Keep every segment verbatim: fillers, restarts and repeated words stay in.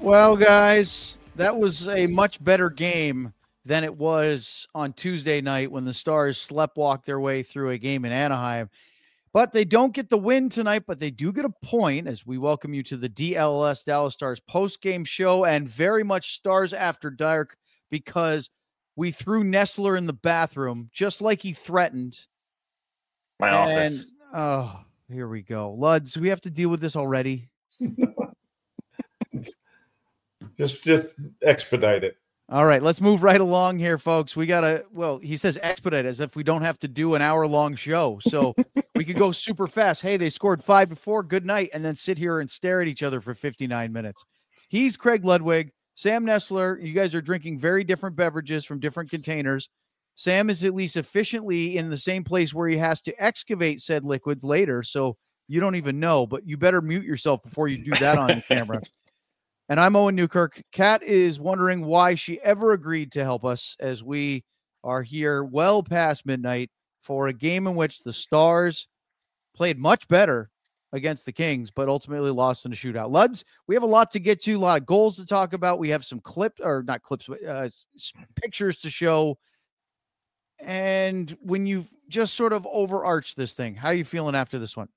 Well, guys, that was a much better game than it was on Tuesday night when the Stars sleptwalked their way through a game in Anaheim. But they don't get the win tonight, but they do get a point as we welcome you to the D L S Dallas Stars post-game show and very much Stars After Dark because we threw Nestler in the bathroom just like he threatened. My and, office. Oh, here we go. Luds, we have to deal with this already. just, just expedite it. All right, let's move right along here, folks. We got to, well, he says expedite as if we don't have to do an hour-long show. So we could go super fast. Hey, they scored five to four. Good night. And then sit here and stare at each other for fifty-nine minutes. He's Craig Ludwig. Sam Nestler, you guys are drinking very different beverages from different containers. Sam is at least efficiently in the same place where he has to excavate said liquids later. So you don't even know, but you better mute yourself before you do that on the camera. And I'm Owen Newkirk. Kat is wondering why she ever agreed to help us as we are here well past midnight for a game in which the Stars played much better against the Kings, but ultimately lost in a shootout. Luds, we have a lot to get to, a lot of goals to talk about. We have some clips, or not clips, but uh, pictures to show. And when you just sort of overarch this thing, how are you feeling after this one?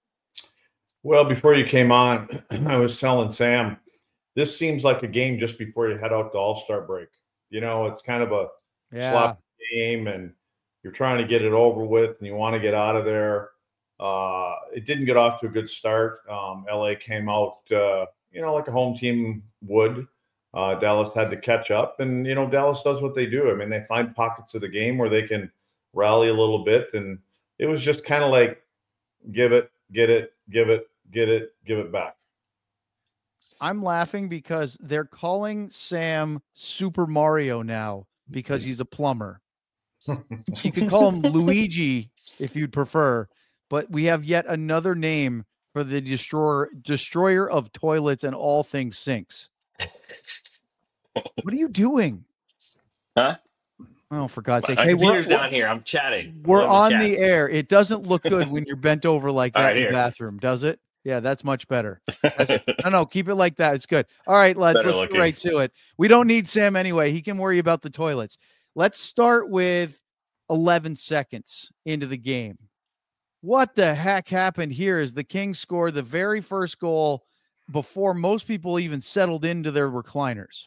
Well, before you came on, I was telling Sam, this seems like a game just before you head out to All-Star break. You know, it's kind of a yeah. sloppy game, and you're trying to get it over with, and you want to get out of there. Uh, it didn't get off to a good start. Um, L A came out, uh, you know, like a home team would. Uh, Dallas had to catch up, and, you know, Dallas does what they do. I mean, they find pockets of the game where they can rally a little bit, and it was just kind of like give it, get it, give it, get it, give it back. I'm laughing because they're calling Sam Super Mario now because he's a plumber. You could call him Luigi if you'd prefer, but we have yet another name for the destroyer, destroyer of toilets and all things sinks. What are you doing? Huh? Oh, for God's sake. My hey, computer's we're, down here. I'm chatting. We're on the, the air. It doesn't look good when you're bent over like that right, in the here. bathroom, does it? Yeah, that's much better. That's, no, no, keep it like that. It's good. All right, lads, Better let's looking. get right to it. We don't need Sam anyway. He can worry about the toilets. Let's start with eleven seconds into the game. What the heck happened here is the Kings scored the very first goal before most people even settled into their recliners.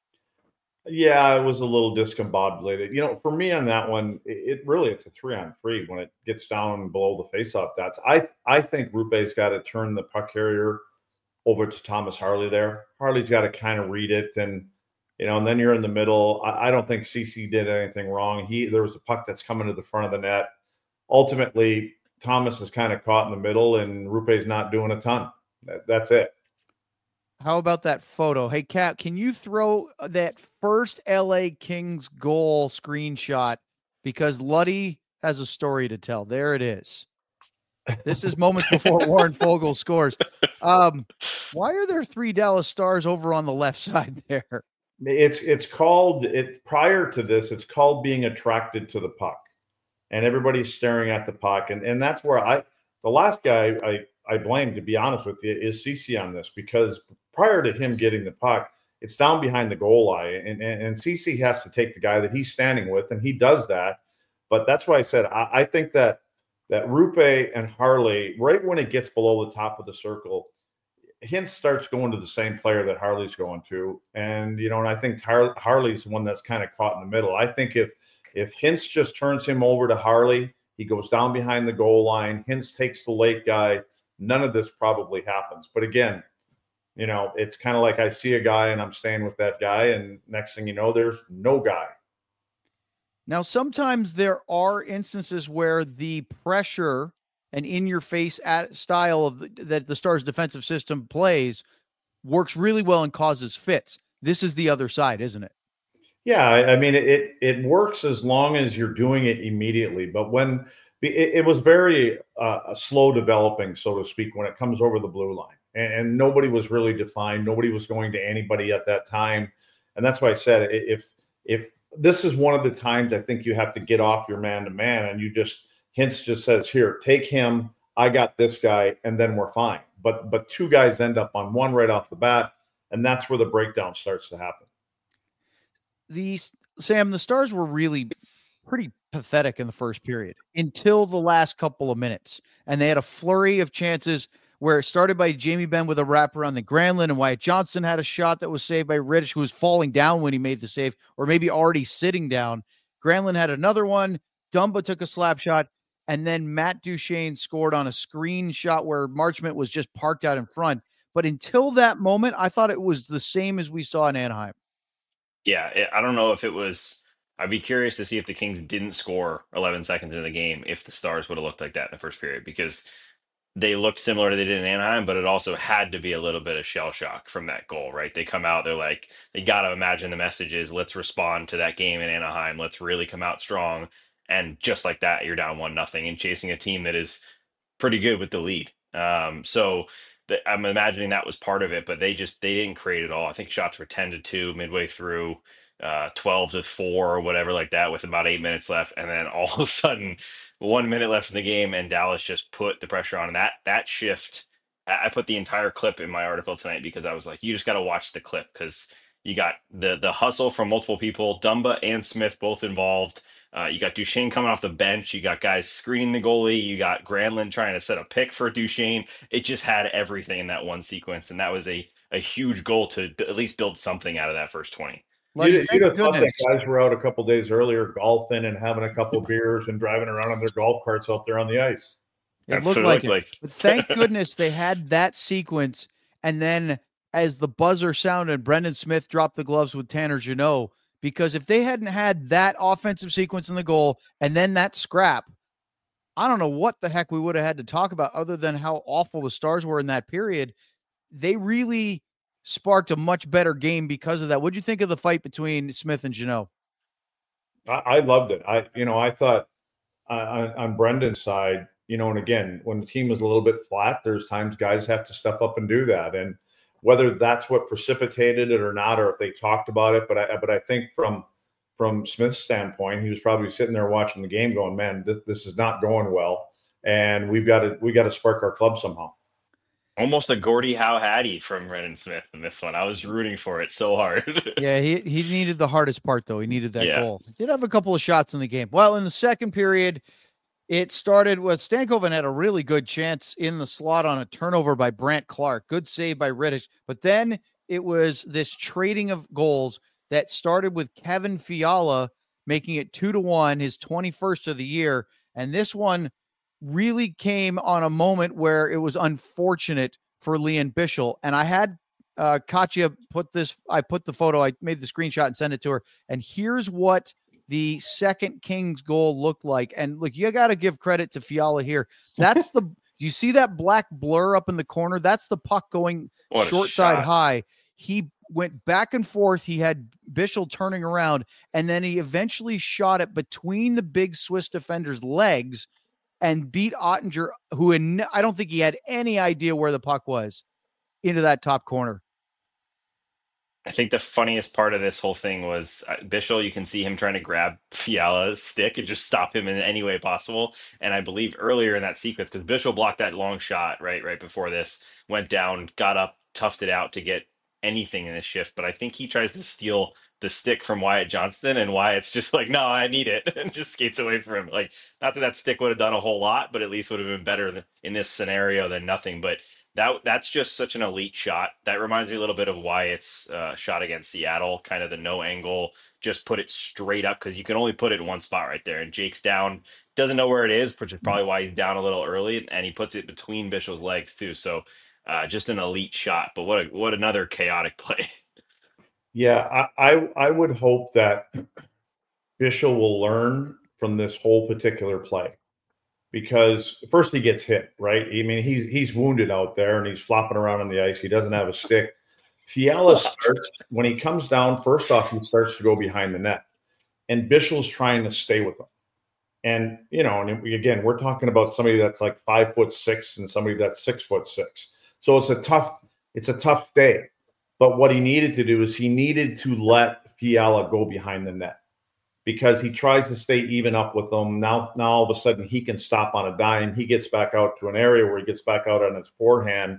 Yeah, it was a little discombobulated. You know, for me on that one, it, it really, it's a three on three when it gets down below the faceoff dots. I, I think Rupe's got to turn the puck carrier over to Thomas Harley there. Harley's got to kind of read it, and, you know, and then you're in the middle. I, I don't think C C did anything wrong. He, there was a puck that's coming to the front of the net. Ultimately, Thomas is kind of caught in the middle, and Rupe's not doing a ton. That, that's it. How about that photo? Hey, Kat, can you throw that first L A Kings goal screenshot? Because Luddy has a story to tell. There it is. This is moments before Warren Fogle scores. Um, why are there three Dallas Stars over on the left side there? It's it's called it prior to this. It's called being attracted to the puck, and everybody's staring at the puck, and and that's where I the last guy I I blame, to be honest with you, is C C on this, because prior to him getting the puck, it's down behind the goal line, and and, and C C has to take the guy that he's standing with, and he does that. But that's why I said I, I think that that Rupe and Harley, right when it gets below the top of the circle, Hintz starts going to the same player that Harley's going to. And, you know, and I think Har- Harley's the one that's kind of caught in the middle. I think if if Hintz just turns him over to Harley, he goes down behind the goal line, Hintz takes the late guy, none of this probably happens. But again, you know, it's kind of like I see a guy and I'm staying with that guy, and next thing you know, there's no guy. Now, sometimes there are instances where the pressure and in-your-face style of the, that the Stars' defensive system plays works really well and causes fits. This is the other side, isn't it? Yeah, I, I mean, it it works as long as you're doing it immediately. But when it, it was very uh, slow developing, so to speak, when it comes over the blue line, and, and nobody was really defined. Nobody was going to anybody at that time, and that's why I said if if this is one of the times I think you have to get off your man-to-man, and you just Hintz just says, here, take him. I got this guy, and then we're fine. But but two guys end up on one right off the bat, And that's where the breakdown starts to happen. These Sam, the Stars were really pretty pathetic in the first period until the last couple of minutes. And they had a flurry of chances where it started by Jamie Benn with a wrap around the Granlund, and Wyatt Johnston had a shot that was saved by Rittich, who was falling down when he made the save, or maybe already sitting down. Granlund had another one. Dumba took a slap shot, and then Matt Duchene scored on a screen shot where Marchment was just parked out in front. But until that moment, I thought it was the same as we saw in Anaheim. Yeah, it, I don't know if it was. I'd be curious to see if the Kings didn't score eleven seconds into the game, if the Stars would have looked like that in the first period, because they looked similar to they did in Anaheim, but it also had to be a little bit of shell shock from that goal, right? They come out, they're like, they got to imagine the message is, let's respond to that game in Anaheim. Let's really come out strong. And just like that, you're down one nothing and chasing a team that is pretty good with the lead. Um, so the, I'm imagining that was part of it, but they just, they didn't create it all. I think shots were ten to two midway through, uh, twelve to four or whatever like that, with about eight minutes left. And then all of a sudden, one minute left in the game, and Dallas just put the pressure on. And that, that shift, I I put the entire clip in my article tonight because I was like, you just got to watch the clip, because you got the, the hustle from multiple people, Dumba and Smith both involved. Uh, you got Duchene coming off the bench. You got guys screening the goalie. You got Granlund trying to set a pick for Duchene. It just had everything in that one sequence. And that was a, a huge goal to b- at least build something out of that first twenty. You'd, you'd have thought that guys were out a couple days earlier golfing and having a couple beers and driving around on their golf carts out there on the ice. It That's looked what it like looked it. like. But thank goodness they had that sequence. And then as the buzzer sounded, Brendan Smith dropped the gloves with Tanner Jeannot, because if they hadn't had that offensive sequence in the goal and then that scrap, I don't know what the heck we would have had to talk about other than how awful the Stars were in that period. They really sparked a much better game because of that. What'd you think of the fight between Smith and Jeannot? I, I loved it. I, you know, I thought uh, on Brendan's side, you know, and again, when the team is a little bit flat, there's times guys have to step up and do that. And whether that's what precipitated it or not, or if they talked about it, but I, but I think from from Smith's standpoint, he was probably sitting there watching the game, going, "Man, this, this is not going well, and we've got to we got to spark our club somehow." Almost a Gordie Howe Hattie from Brendan Smith in this one. I was rooting for it so hard. Yeah, he he needed the hardest part, though. He needed that Yeah. goal. He did have a couple of shots in the game. Well, in the second period, it started with Stankoven had a really good chance in the slot on a turnover by Brandt Clark. Good save by Rittich. But then it was this trading of goals that started with Kevin Fiala making it two to one, his twenty-first of the year. And this one really came on a moment where it was unfortunate for Lian Bichsel. And I had uh, Katya put this, I put the photo, I made the screenshot and sent it to her. And here's what the second Kings goal looked like. And look, you got to give credit to Fiala here. That's the, you see that black blur up in the corner? That's the puck going What a short side shot. high. He went back and forth. He had Bichsel turning around, and then he eventually shot it between the big Swiss defender's legs and beat Ottinger, who in, I don't think he had any idea where the puck was, into that top corner. I think the funniest part of this whole thing was uh, Bichsel. You can see him trying to grab Fiala's stick and just stop him in any way possible. And I believe earlier in that sequence, because Bichsel blocked that long shot right right before this, went down, got up, toughed it out to get anything in this shift. But I think he tries to steal the stick from Wyatt Johnston, and Wyatt's just like, no, I need it, and just skates away from him. Like, not that that stick would have done a whole lot, but at least would have been better than, in this scenario than nothing. But that that's just such an elite shot. That reminds me a little bit of Wyatt's uh, shot against Seattle, kind of the no angle, just put it straight up, because you can only put it in one spot right there. And Jake's down, doesn't know where it is, which is probably why he's down a little early, and he puts it between Bichsel's legs too. So uh, just an elite shot. But what a, what another chaotic play. Yeah, I, I I would hope that Bichsel will learn from this whole particular play, because first he gets hit, right? I mean, he's he's wounded out there and he's flopping around on the ice. He doesn't have a stick. Fiala starts, when he comes down, first off, he starts to go behind the net, and Bischel's trying to stay with him. And, you know, and again, we're talking about somebody that's like five foot six and somebody that's six foot six. So it's a tough, it's a tough stay. But what he needed to do is he needed to let Fiala go behind the net, because he tries to stay even up with them. Now, now all of a sudden he can stop on a dime. He gets back out to an area where he gets back out on his forehand,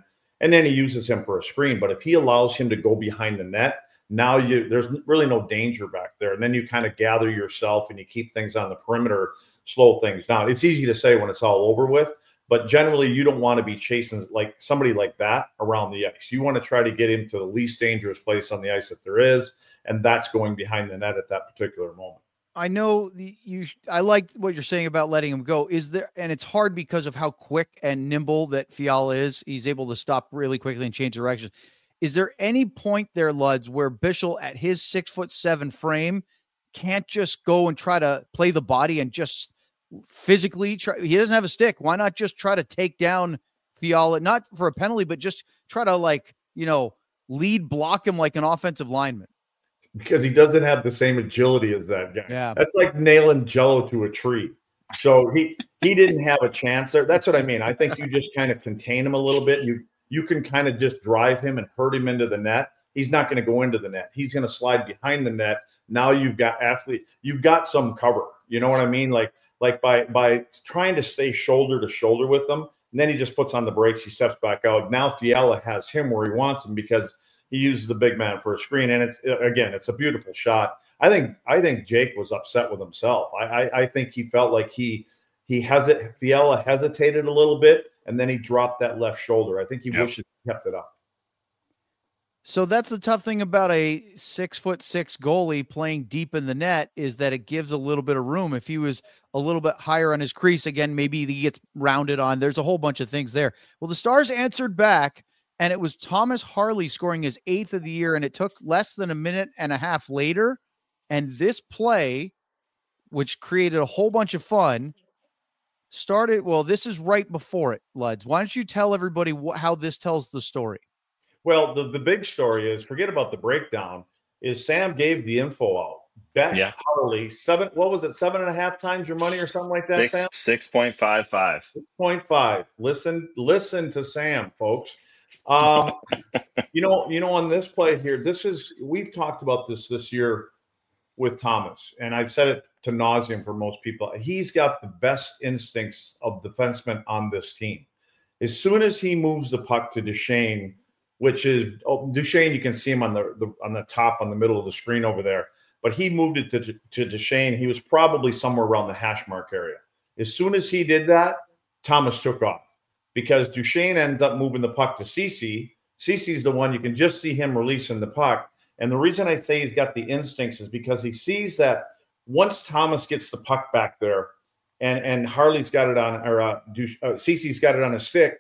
and then he uses him for a screen. But if he allows him to go behind the net, now you there's really no danger back there. And then you kind of gather yourself and you keep things on the perimeter, slow things down. It's easy to say when it's all over with, but generally you don't want to be chasing like somebody like that around the ice. You want to try to get him to the least dangerous place on the ice that there is, and that's going behind the net at that particular moment. I know you, I like what you're saying about letting him go. Is there, and it's hard because of how quick and nimble that Fiala is. He's able to stop really quickly and change direction. Is there any point there, Luds, where Bichsel at his six foot seven frame can't just go and try to play the body and just physically try? He doesn't have a stick. Why not just try to take down Fiala, not for a penalty, but just try to, like, you know, lead block him like an offensive lineman? Because he doesn't have the same agility as that guy. Yeah. That's like nailing Jello to a tree. So he he didn't have a chance there. That's what I mean. I think you just kind of contain him a little bit. You you can kind of just drive him and hurt him into the net. He's not going to go into the net. He's going to slide behind the net. Now you've got athlete. You've got some cover. You know what I mean? Like like by by trying to stay shoulder to shoulder with them, and then he just puts on the brakes. He steps back out. Now Fiala has him where he wants him because he uses the big man for a screen, and it's again, it's a beautiful shot. I think I think Jake was upset with himself. I I, I think he felt like he he hesit Fiala hesitated a little bit, and then he dropped that left shoulder. I think he Yep. wishes he kept it up. So that's the tough thing about a six foot six goalie playing deep in the net, is that it gives a little bit of room. If he was a little bit higher on his crease, again, maybe he gets rounded on. There's a whole bunch of things there. Well, the Stars answered back, and it was Thomas Harley scoring his eighth of the year, and it took less than a minute and a half later. And this play, which created a whole bunch of fun, started, well, this is right before it, Luds. Why don't you tell everybody wh- how this tells the story? Well, the, the big story is, forget about the breakdown, is Sam gave the info out. Bet Yeah. Harley, seven, what was it, seven and a half times your money or something like that, Six Sam? six point five five. six point five. Listen, listen to Sam, folks. Um, you know, you know, on this play here, this is, we've talked about this this year with Thomas, and I've said it to nauseum for most people. He's got the best instincts of defensemen on this team. As soon as he moves the puck to Duchesne, which is oh, Duchesne, you can see him on the, the on the top, on the middle of the screen over there. But he moved it to, to Duchesne. He was probably somewhere around the hash mark area. As soon as he did that, Thomas took off, because Duchesne ends up moving the puck to Ceci. Ceci's the one, you can just see him releasing the puck. And the reason I say he's got the instincts is because he sees that once Thomas gets the puck back there, and, and Harley's got it on, or uh, uh, Ceci's got it on his stick,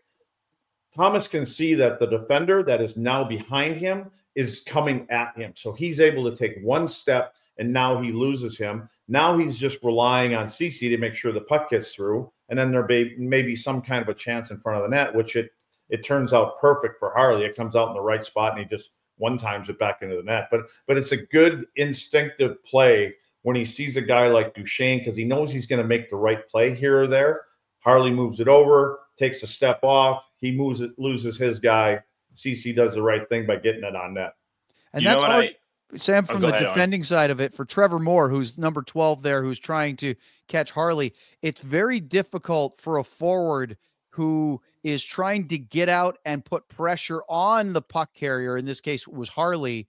Thomas can see that the defender that is now behind him is coming at him. So he's able to take one step, and now he loses him. Now he's just relying on Ceci to make sure the puck gets through, and then there may, may be some kind of a chance in front of the net, which it it turns out perfect for Harley. It comes out in the right spot, and he just one times it back into the net. But but it's a good instinctive play when he sees a guy like Duchesne, because he knows he's going to make the right play here or there. Harley moves it over, takes a step off. He moves it, loses his guy. Ceci does the right thing by getting it on net. And You that's know what hard, I- Sam, Oh, from go the ahead, Owen. defending side of it, for Trevor Moore, who's number twelve there, who's trying to catch Harley. It's very difficult for a forward who is trying to get out and put pressure on the puck carrier. In this case, it was Harley,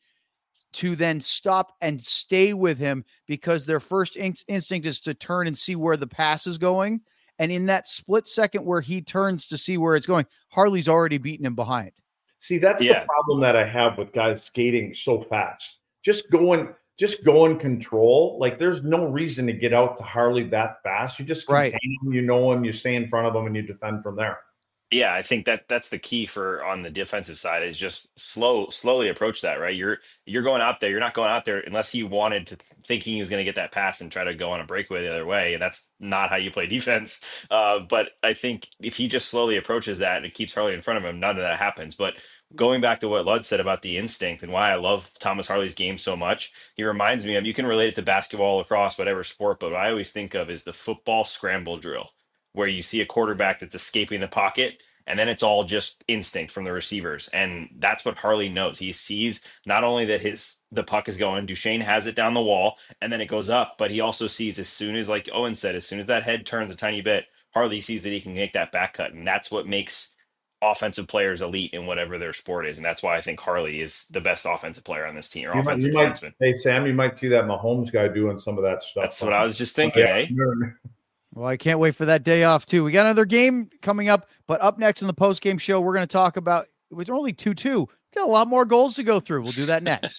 to then stop and stay with him, because their first in- instinct is to turn and see where the pass is going. And in that split second where he turns to see where it's going, Harley's already beaten him behind. See, that's Yeah. the problem that I have with guys skating so fast. Just going, just go in control. Like, there's no reason to get out to Harley that fast. You just contain Right. him, you know him, you stay in front of him, and you defend from there. Yeah, I think that that's the key for on the defensive side, is just slow, slowly approach that, right? You're you're going out there. You're not going out there unless he wanted to, thinking he was going to get that pass and try to go on a breakaway the other way. And that's not how you play defense. Uh, but I think if he just slowly approaches that and it keeps Harley in front of him, none of that happens. But going back to what Lud said about the instinct and why I love Thomas Harley's game so much, he reminds me of, you can relate it to basketball, lacrosse, whatever sport, but what I always think of is the football scramble drill, where you see a quarterback that's escaping the pocket, and then it's all just instinct from the receivers. And that's what Harley knows. He sees not only that his the puck is going, Duchesne has it down the wall, and then it goes up, but he also sees, as soon as, like Owen said, as soon as that head turns a tiny bit, Harley sees that he can make that back cut. And that's what makes offensive players elite in whatever their sport is. And that's why I think Harley is the best offensive player on this team, or You might, offensive you might, defenseman. hey, Sam, you might see that Mahomes guy doing some of that stuff. That's what I was just thinking, eh? Well, I can't wait for that day off, too. We got another game coming up, but up next in the post-game show, we're going to talk about, it was only two two. We got a lot more goals to go through. We'll do that next.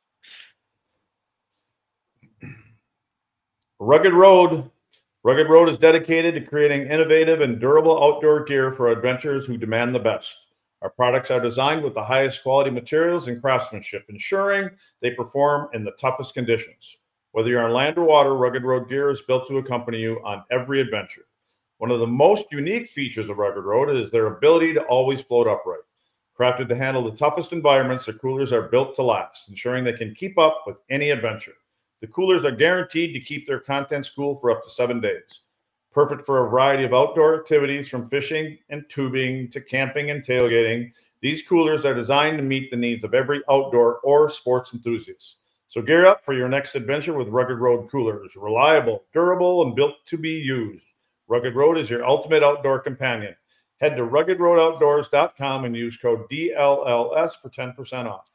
Rugged Road. Rugged Road is dedicated to creating innovative and durable outdoor gear for adventurers who demand the best. Our products are designed with the highest quality materials and craftsmanship, ensuring they perform in the toughest conditions. Whether you're on land or water, Rugged Road gear is built to accompany you on every adventure. One of the most unique features of Rugged Road is their ability to always float upright. Crafted to handle the toughest environments, the coolers are built to last, ensuring they can keep up with any adventure. The coolers are guaranteed to keep their contents cool for up to seven days. Perfect for a variety of outdoor activities, from fishing and tubing to camping and tailgating. These coolers are designed to meet the needs of every outdoor or sports enthusiast. So gear up for your next adventure with Rugged Road coolers. Reliable, durable, and built to be used. Rugged Road is your ultimate outdoor companion. Head to rugged road outdoors dot com and use code D L L S for ten percent off.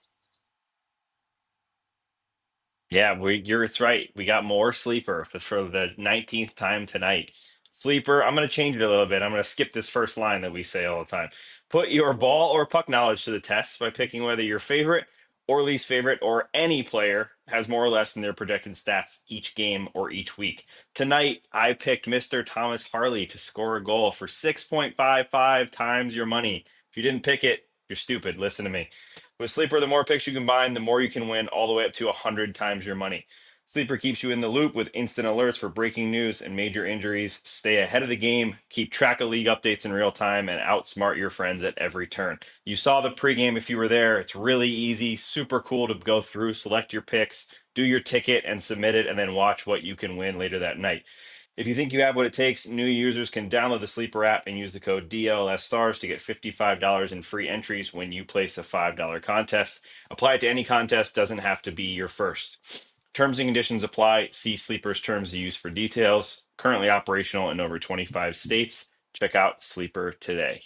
Yeah, we, you're it's right. We got more Sleeper for, for the nineteenth time tonight. Sleeper, I'm going to change it a little bit. I'm going to skip this first line that we say all the time. Put your ball or puck knowledge to the test by picking whether your favorite or least favorite or any player has more or less than their projected stats each game or each week. Tonight, I picked Mister Thomas Harley to score a goal for six point five five times your money. If you didn't pick it, you're stupid. Listen to me. With Sleeper, the more picks you combine, the more you can win, all the way up to one hundred times your money. Sleeper keeps you in the loop with instant alerts for breaking news and major injuries. Stay ahead of the game, keep track of league updates in real time, and outsmart your friends at every turn. You saw the pregame if you were there. It's really easy, super cool to go through, select your picks, do your ticket, and submit it, and then watch what you can win later that night. If you think you have what it takes, new users can download the Sleeper app and use the code D L S STARS to get fifty-five dollars in free entries when you place a five dollar contest. Apply it to any contest, doesn't have to be your first. Terms and conditions apply. See Sleeper's terms of use for details. Currently operational in over twenty-five states. Check out Sleeper today.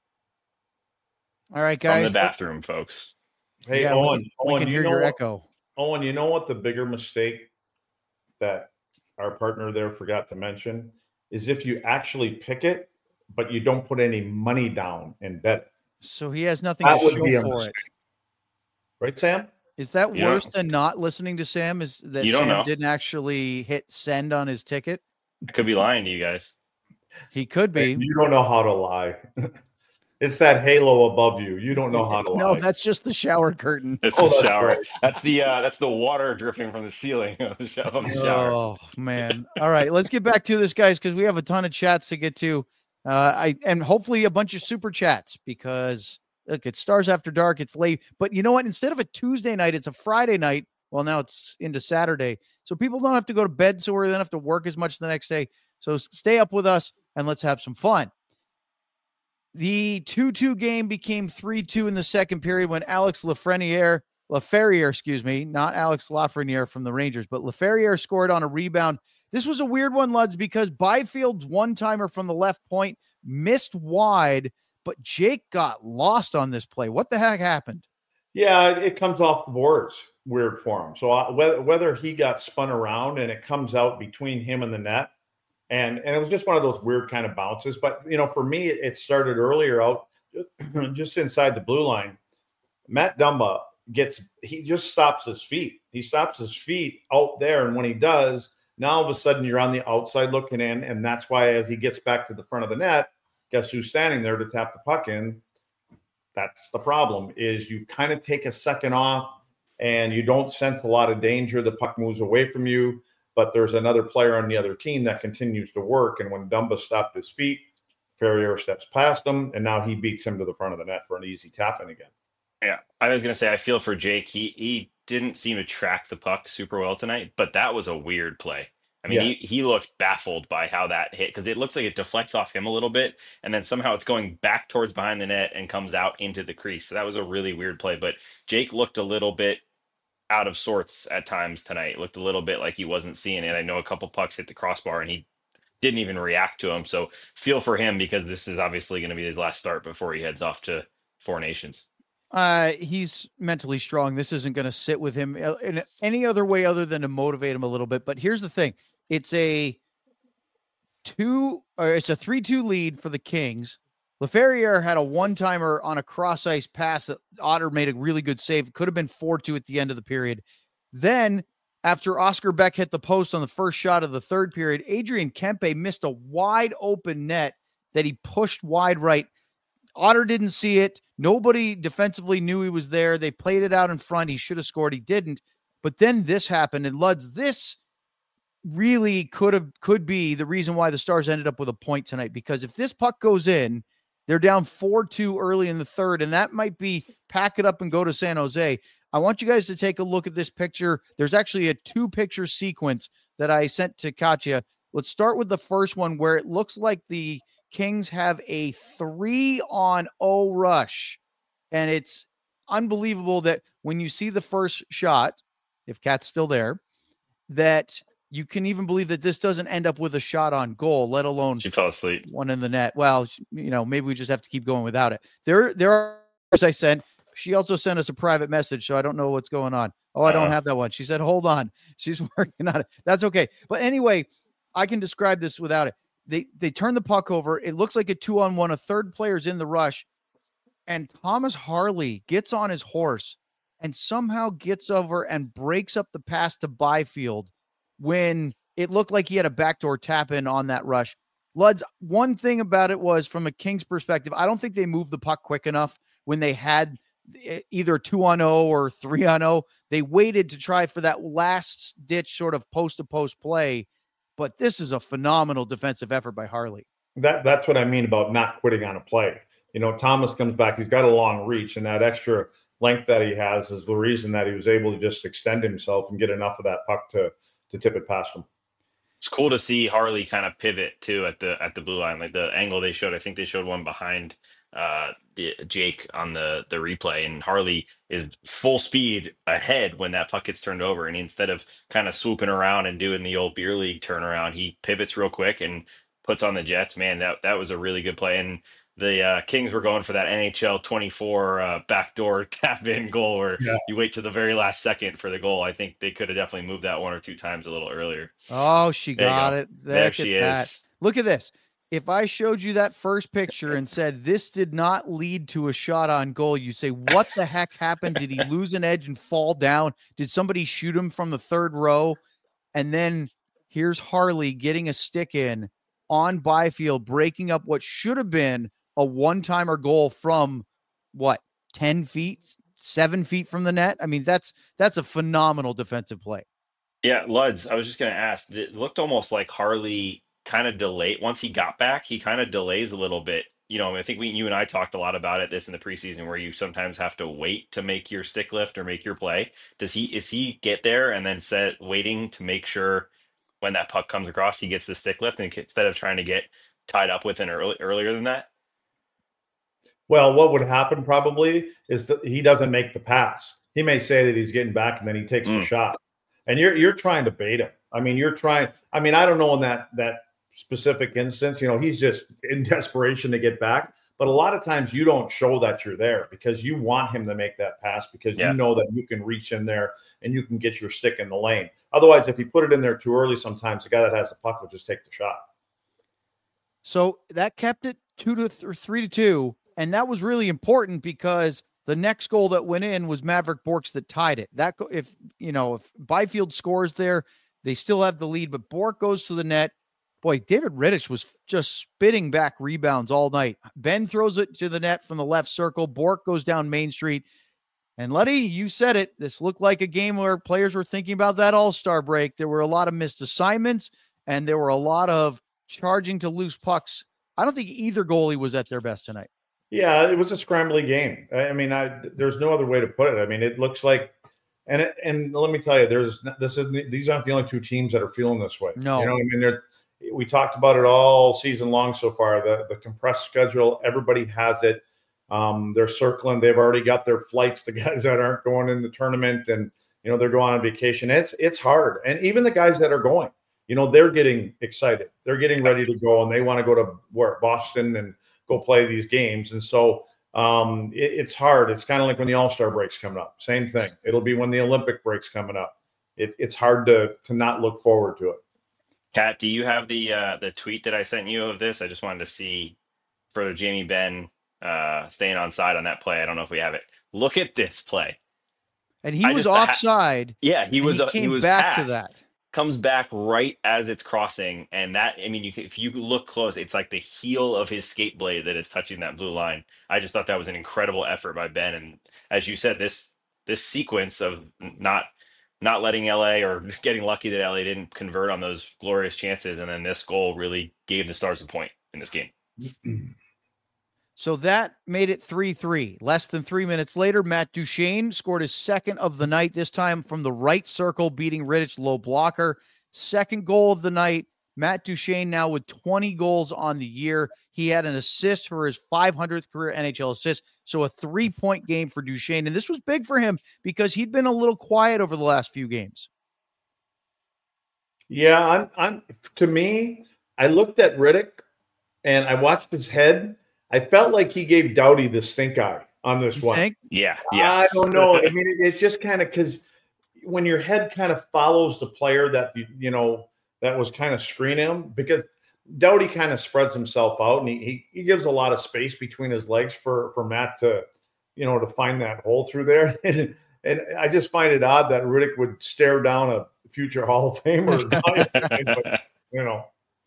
All right, guys. From the bathroom, folks. Hey, yeah, Owen, we can, we Owen, can you hear know your what, echo. Owen, you know what the bigger mistake that our partner there forgot to mention is if you actually pick it, but you don't put any money down and bet it. So he has nothing That to would be show a for mistake. it. Right, Sam? Is that You worse don't- than not listening to Sam? Is that You don't Sam know. didn't actually hit send on his ticket? I could be lying to you guys. He could be. You don't know how to lie. It's that halo above you. You don't know how to No, lie. that's just the shower curtain. It's Oh, the that's shower. right. That's the uh, that's the water dripping from the ceiling of the shower. Of the shower. Oh man! All right, let's get back to this, guys, because we have a ton of chats to get to. Uh, I and hopefully a bunch of super chats because look, it's Stars After Dark. It's late, but you know what? Instead of a Tuesday night, it's a Friday night. Well, now it's into Saturday, so people don't have to go to bed so early. They don't have to work as much the next day. So stay up with us and let's have some fun. The two two game became three two in the second period when Alex Lafreniere, Laferriere, excuse me, not Alex Lafreniere from the Rangers, but Laferriere scored on a rebound. This was a weird one, Luds, because Byfield's one-timer from the left point missed wide, but Jake got lost on this play. What the heck happened? Yeah, it comes off the boards weird for him. So uh, whether, whether he got spun around and it comes out between him and the net, and and it was just one of those weird kind of bounces. But, you know, for me, it, it started earlier out just inside the blue line. Matt Dumba gets, he just stops his feet. He stops his feet out there. And when he does, now all of a sudden you're on the outside looking in. And that's why as he gets back to the front of the net, guess who's standing there to tap the puck in? That's the problem, is you kind of take a second off and you don't sense a lot of danger. The puck moves away from you, but there's another player on the other team that continues to work. And when Dumba stopped his feet, Ferrier steps past him, and now he beats him to the front of the net for an easy tap in again. Yeah, I was gonna say I feel for Jake. He he didn't seem to track the puck super well tonight, but that was a weird play. I mean, Yeah. he, he looked baffled by how that hit because it looks like it deflects off him a little bit, and then somehow it's going back towards behind the net and comes out into the crease. So that was a really weird play. But Jake looked a little bit out of sorts at times tonight. Looked a little bit like he wasn't seeing it. I know a couple pucks hit the crossbar and he didn't even react to him. So feel for him, because this is obviously going to be his last start before he heads off to Four Nations. Uh, he's mentally strong. This isn't going to sit with him in any other way other than to motivate him a little bit. But here's the thing. It's a two or it's a three two lead for the Kings. Laferriere had a one-timer on a cross-ice pass that Otter made a really good save. It could have been four two at the end of the period. Then, after Oscar Beck hit the post on the first shot of the third period, Adrian Kempe missed a wide-open net that he pushed wide right. Otter didn't see it. Nobody defensively knew he was there. They played it out in front. He should have scored. He didn't. But then this happened, and Luds, this really could have could be the reason why the Stars ended up with a point tonight, because if this puck goes in, they're down four two early in the third, and that might be pack it up and go to San Jose. I want you guys to take a look at this picture. There's actually a two-picture sequence that I sent to Katya. Let's start with the first one where it looks like the Kings have a three on oh rush, and it's unbelievable that when you see the first shot, if Kat's still there, that you can even believe that this doesn't end up with a shot on goal, let alone she fell asleep. One in the net. Well, you know, maybe we just have to keep going without it. There, there are, as I sent, she also sent us a private message, so I don't know what's going on. Oh, I don't uh, have that one. She said, hold on. She's working on it. That's okay. But anyway, I can describe this without it. They, they turn the puck over. It looks like a two on one, a third player's in the rush, and Thomas Harley gets on his horse and somehow gets over and breaks up the pass to Byfield when it looked like he had a backdoor tap in on that rush. Luds, one thing about it was, from a Kings perspective, I don't think they moved the puck quick enough when they had either two on oh or three on oh. They waited to try for that last ditch sort of post to post play, but this is a phenomenal defensive effort by Harley. That that's what I mean about not quitting on a play. You know, Thomas comes back, he's got a long reach, and that extra length that he has is the reason that he was able to just extend himself and get enough of that puck to to tip it past him. It's cool to see Harley kind of pivot too at the at the blue line, like the angle they showed. I think they showed one behind uh, the Jake on the the replay, and Harley is full speed ahead when that puck gets turned over, and instead of kind of swooping around and doing the old beer league turnaround, he pivots real quick and puts on the Jets. Man, that that was a really good play. And the uh, Kings were going for that N H L twenty-four uh, backdoor tap-in goal where yeah. you wait to the very last second for the goal. I think they could have definitely moved that one or two times a little earlier. Oh, she there got go. it. Look there she that. is. Look at this. If I showed you that first picture and said this did not lead to a shot on goal, you'd say, what the heck happened? Did he lose an edge and fall down? Did somebody shoot him from the third row? And then here's Harley getting a stick in on Byfield, breaking up what should have been a one-timer goal from what, ten feet, seven feet from the net. I mean, that's, that's a phenomenal defensive play. Yeah. Luds, I was just going to ask, it looked almost like Harley kind of delayed. Once he got back, he kind of delays a little bit. You know, I think we, you and I talked a lot about it this in the preseason, where you sometimes have to wait to make your stick lift or make your play. Does he, is he get there and then set waiting to make sure when that puck comes across, he gets the stick lift, and instead of trying to get tied up with an early, earlier than that? Well, what would happen probably is that he doesn't make the pass. He may say that he's getting back and then he takes mm. the shot. And you're you're trying to bait him. I mean, you're trying. I mean, I don't know in that that specific instance, you know, he's just in desperation to get back. But a lot of times you don't show that you're there because you want him to make that pass because yeah. you know that you can reach in there and you can get your stick in the lane. Otherwise, if you put it in there too early, sometimes the guy that has the puck will just take the shot. So that kept it two to th- three to two. And that was really important because the next goal that went in was Maverick Borks that tied it. That go- if you know if Byfield scores there, they still have the lead. But Bork goes to the net. Boy, David Rittich was just spitting back rebounds all night. Ben throws it to the net from the left circle. Bork goes down Main Street. And Letty, you said it. This looked like a game where players were thinking about that All-Star break. There were a lot of missed assignments, and there were a lot of charging to loose pucks. I don't think either goalie was at their best tonight. Yeah, it was a scrambly game. I mean, I, there's no other way to put it. I mean, it looks like, and it, and let me tell you, there's this is these aren't the only two teams that are feeling this way. No, you know, I mean, they're, we talked about it all season long so far. The the compressed schedule, everybody has it. Um, they're circling. They've already got their flights. The guys that aren't going in the tournament, and you know they're going on vacation. It's it's hard, and even the guys that are going. you know, they're getting excited. They're getting ready to go, and they want to go to where Boston and go play these games. And so um, it, it's hard. It's kind of like when the All-Star break's coming up. Same thing. It'll be when the Olympic break's coming up. It, it's hard to to not look forward to it. Kat, do you have the uh, the tweet that I sent you of this? I just wanted to see further Jamie Benn uh, staying on side on that play. I don't know if we have it. Look at this play. And he I was just- offside. Yeah, he was. He uh, came he was back passed. to that. Comes back right as it's crossing, and that I mean, you can, if you look close, it's like the heel of his skate blade that is touching that blue line. I just thought that was an incredible effort by Ben, and as you said, this this sequence of not not letting L A or getting lucky that L A didn't convert on those glorious chances, and then this goal really gave the Stars a point in this game. So that made it three three. Less than three minutes later, Matt Duchene scored his second of the night, this time from the right circle, beating Rittich, low blocker. Second goal of the night. Matt Duchene now with twenty goals on the year. He had an assist for his five hundredth career N H L assist. So a three-point game for Duchene. And this was big for him because he'd been a little quiet over the last few games. Yeah, I'm, I'm to me, I looked at Rittich and I watched his head. I felt like he gave Doughty the stink eye on this You one. think? Yeah, I yes. don't know. I mean, it, it just kind of because when your head kind of follows the player that you, you know that was kind of screening him, because Doughty kind of spreads himself out and he, he he gives a lot of space between his legs for for Matt to you know to find that hole through there. And, and I just find it odd that Rittich would stare down a future Hall of Famer. But, you know.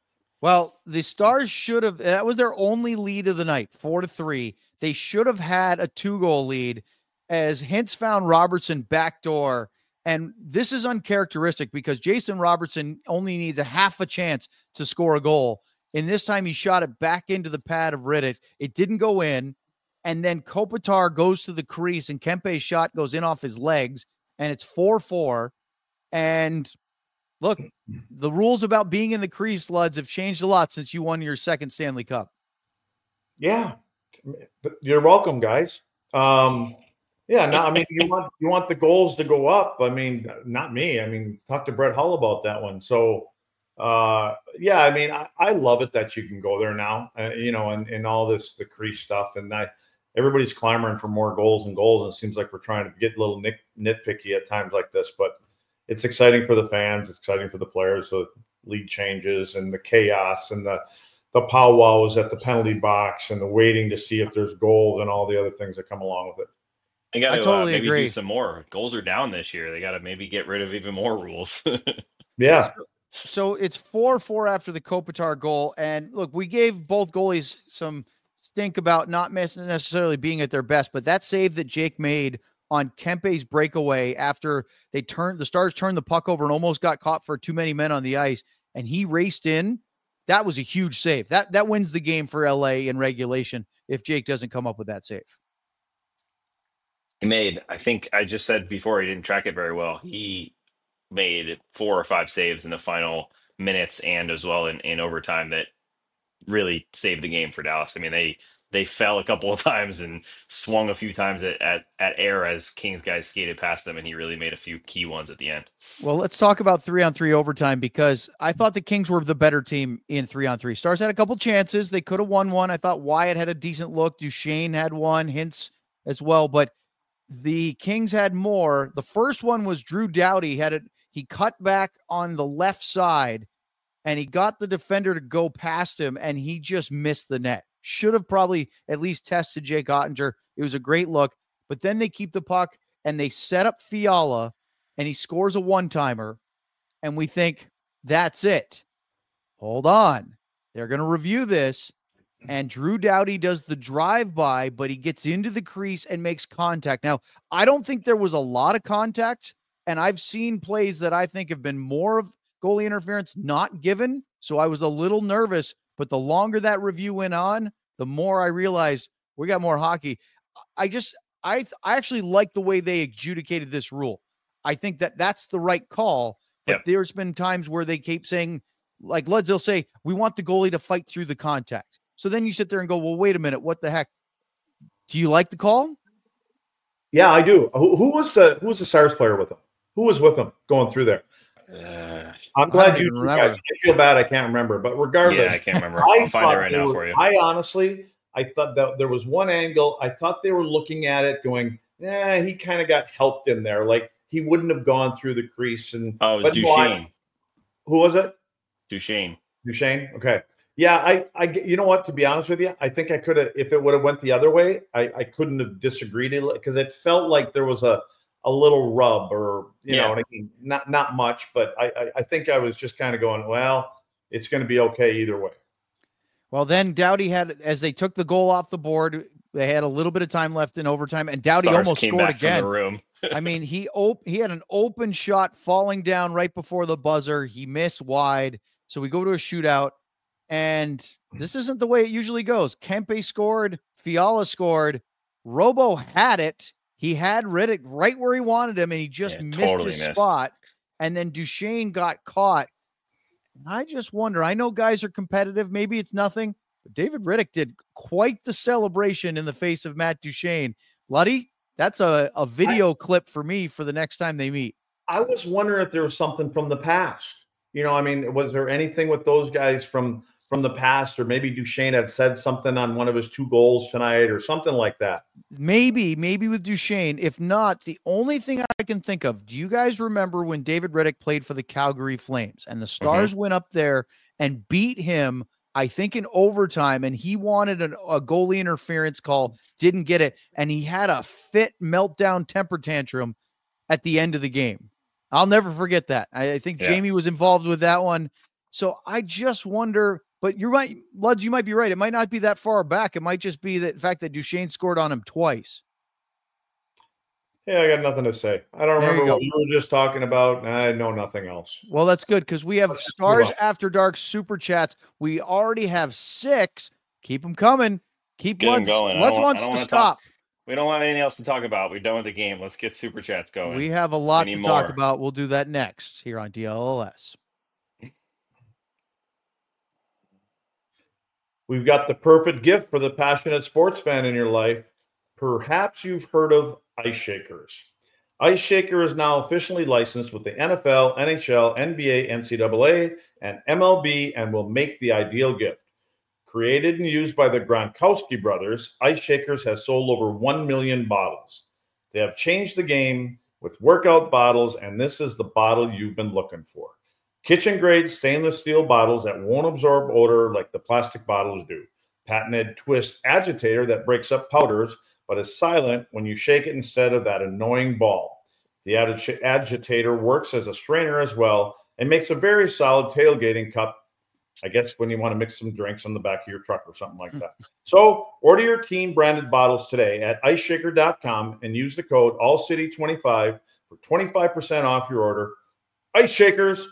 Well, the Stars should have, that was their only lead of the night, four to three. They should have had a two goal lead as Hintz found Robertson backdoor. And this is uncharacteristic because Jason Robertson only needs a half a chance to score a goal. And this time he shot it back into the pad of Rittich. It didn't go in. And then Kopitar goes to the crease and Kempe's shot goes in off his legs and it's four four. And look, the rules about being in the crease, Luds, have changed a lot since you won your second Stanley Cup. Yeah, you're welcome, guys. Um, yeah, no, I mean, you want you want the goals to go up. I mean, not me. I mean, talk to Brett Hull about that one. So, uh, yeah, I mean, I, I love it that you can go there now. Uh, you know, and, and all this the crease stuff, and I, everybody's clamoring for more goals and goals, and it seems like we're trying to get a little nit, nitpicky at times like this, but. It's exciting for the fans. It's exciting for the players. The league changes and the chaos and the the powwows at the penalty box and the waiting to see if there's goals and all the other things that come along with it. They got to totally uh, maybe agree. do some more. Goals are down this year. They got to maybe get rid of even more rules. Yeah. So it's four four after the Kopitar goal. And look, we gave both goalies some stink about not necessarily being at their best, but that save that Jake made on Kempe's breakaway after they turned the Stars turned the puck over and almost got caught for too many men on the ice, and he raced in. That was a huge save. That that wins the game for L A in regulation if Jake doesn't come up with that save. He made, I think I just said before, he didn't track it very well. He made four or five saves in the final minutes and as well in, in overtime that really saved the game for Dallas. I mean, they They fell a couple of times and swung a few times at, at, at air as Kings guys skated past them, and he really made a few key ones at the end. Well, let's talk about three-on-three overtime because I thought the Kings were the better team in three-on-three. Stars had a couple chances. They could have won one. I thought Wyatt had a decent look. Duchene had one, Hintz as well, but the Kings had more. The first one was Drew Doughty. Had it. He cut back on the left side, and he got the defender to go past him, and he just missed the net. Should have probably at least tested Jake Ottinger. It was a great look, but then they keep the puck and they set up Fiala and he scores a one-timer. And we think that's it. Hold on. They're going to review this. And Drew Doughty does the drive-by, but he gets into the crease and makes contact. Now, I don't think there was a lot of contact, and I've seen plays that I think have been more of goalie interference not given. So I was a little nervous. But the longer that review went on, the more I realized we got more hockey. I just, I, I actually like the way they adjudicated this rule. I think that that's the right call. But yep. There's been times where they keep saying, like Luds, they'll say, we want the goalie to fight through the contact. So then you sit there and go, well, wait a minute. What the heck? Do you like the call? Yeah, I do. Who, who was the who was the Stars player with him? Who was with him going through there? Uh, I'm I glad don't you even two guys. remember. I feel bad. I can't remember, but regardless, yeah, I can't remember. I I'll find it thought right they now were. for you. I honestly, I thought that there was one angle. I thought they were looking at it, going, "Yeah, he kind of got helped in there. Like he wouldn't have gone through the crease." And Oh, it was but no, I, Duchesne. who was it? Duchesne. Duchesne. Okay. Yeah, I, I, you know what? To be honest with you, I think I could have, if it would have went the other way, I, I couldn't have disagreed because it felt like there was a, a little rub, or you Yeah. know, what I mean? not not much, but I, I, I think I was just kind of going, well, it's going to be okay either way. Well, then Doughty had, as they took the goal off the board, they had a little bit of time left in overtime, and Doughty Stars almost came scored back again. from the room. I mean, he op- he had an open shot falling down right before the buzzer. He missed wide. So we go to a shootout, and this isn't the way it usually goes. Kempe scored, Fiala scored, Robo had it. He had Riddick right where he wanted him, and he just Yeah, missed totally his missed. spot. And then Duchesne got caught. And I just wonder, I know guys are competitive. Maybe it's nothing, but David Riddick did quite the celebration in the face of Matt Duchesne. Luddy, that's a, a video I, clip for me for the next time they meet. I was wondering if there was something from the past. You know, I mean, was there anything with those guys from from the past, or maybe Duchesne had said something on one of his two goals tonight or something like that? Maybe, maybe with Duchesne. If not, the only thing I can think of, do you guys remember when David Riddick played for the Calgary Flames and the Stars mm-hmm. went up there and beat him, I think in overtime, and he wanted an, a goalie interference call, didn't get it, and he had a fit meltdown temper tantrum at the end of the game. I'll never forget that. I, I think yeah. Jamie was involved with that one. So I just wonder, but you're right, Luds, you might be right. It might not be that far back. It might just be the fact that Duchesne scored on him twice. Yeah, I got nothing to say. I don't there remember you what you were just talking about. I know nothing else. Well, that's good because we have Let's Stars After Dark super chats. We already have six. Keep them coming. Keep Get Luds. going. Luds wants to stop. Talk. We don't have anything else to talk about. We're done with the game. Let's get super chats going. We have a lot to more. talk about. We'll do that next here on D L L S. We've got the perfect gift for the passionate sports fan in your life. Perhaps you've heard of Ice Shakers. Ice Shaker is now officially licensed with the N F L, N H L, N B A, N C double A, and M L B, and will make the ideal gift. Created and used by the Gronkowski brothers, Ice Shakers has sold over one million bottles. They have changed the game with workout bottles, and this is the bottle you've been looking for. Kitchen-grade stainless steel bottles that won't absorb odor like the plastic bottles do. Patented twist agitator that breaks up powders, but is silent when you shake it instead of that annoying ball. The ag- agitator works as a strainer as well and makes a very solid tailgating cup, I guess when you want to mix some drinks on the back of your truck or something like that. So order your team branded bottles today at ice shaker dot com and use the code all city twenty-five for twenty-five percent off your order. Ice Shakers.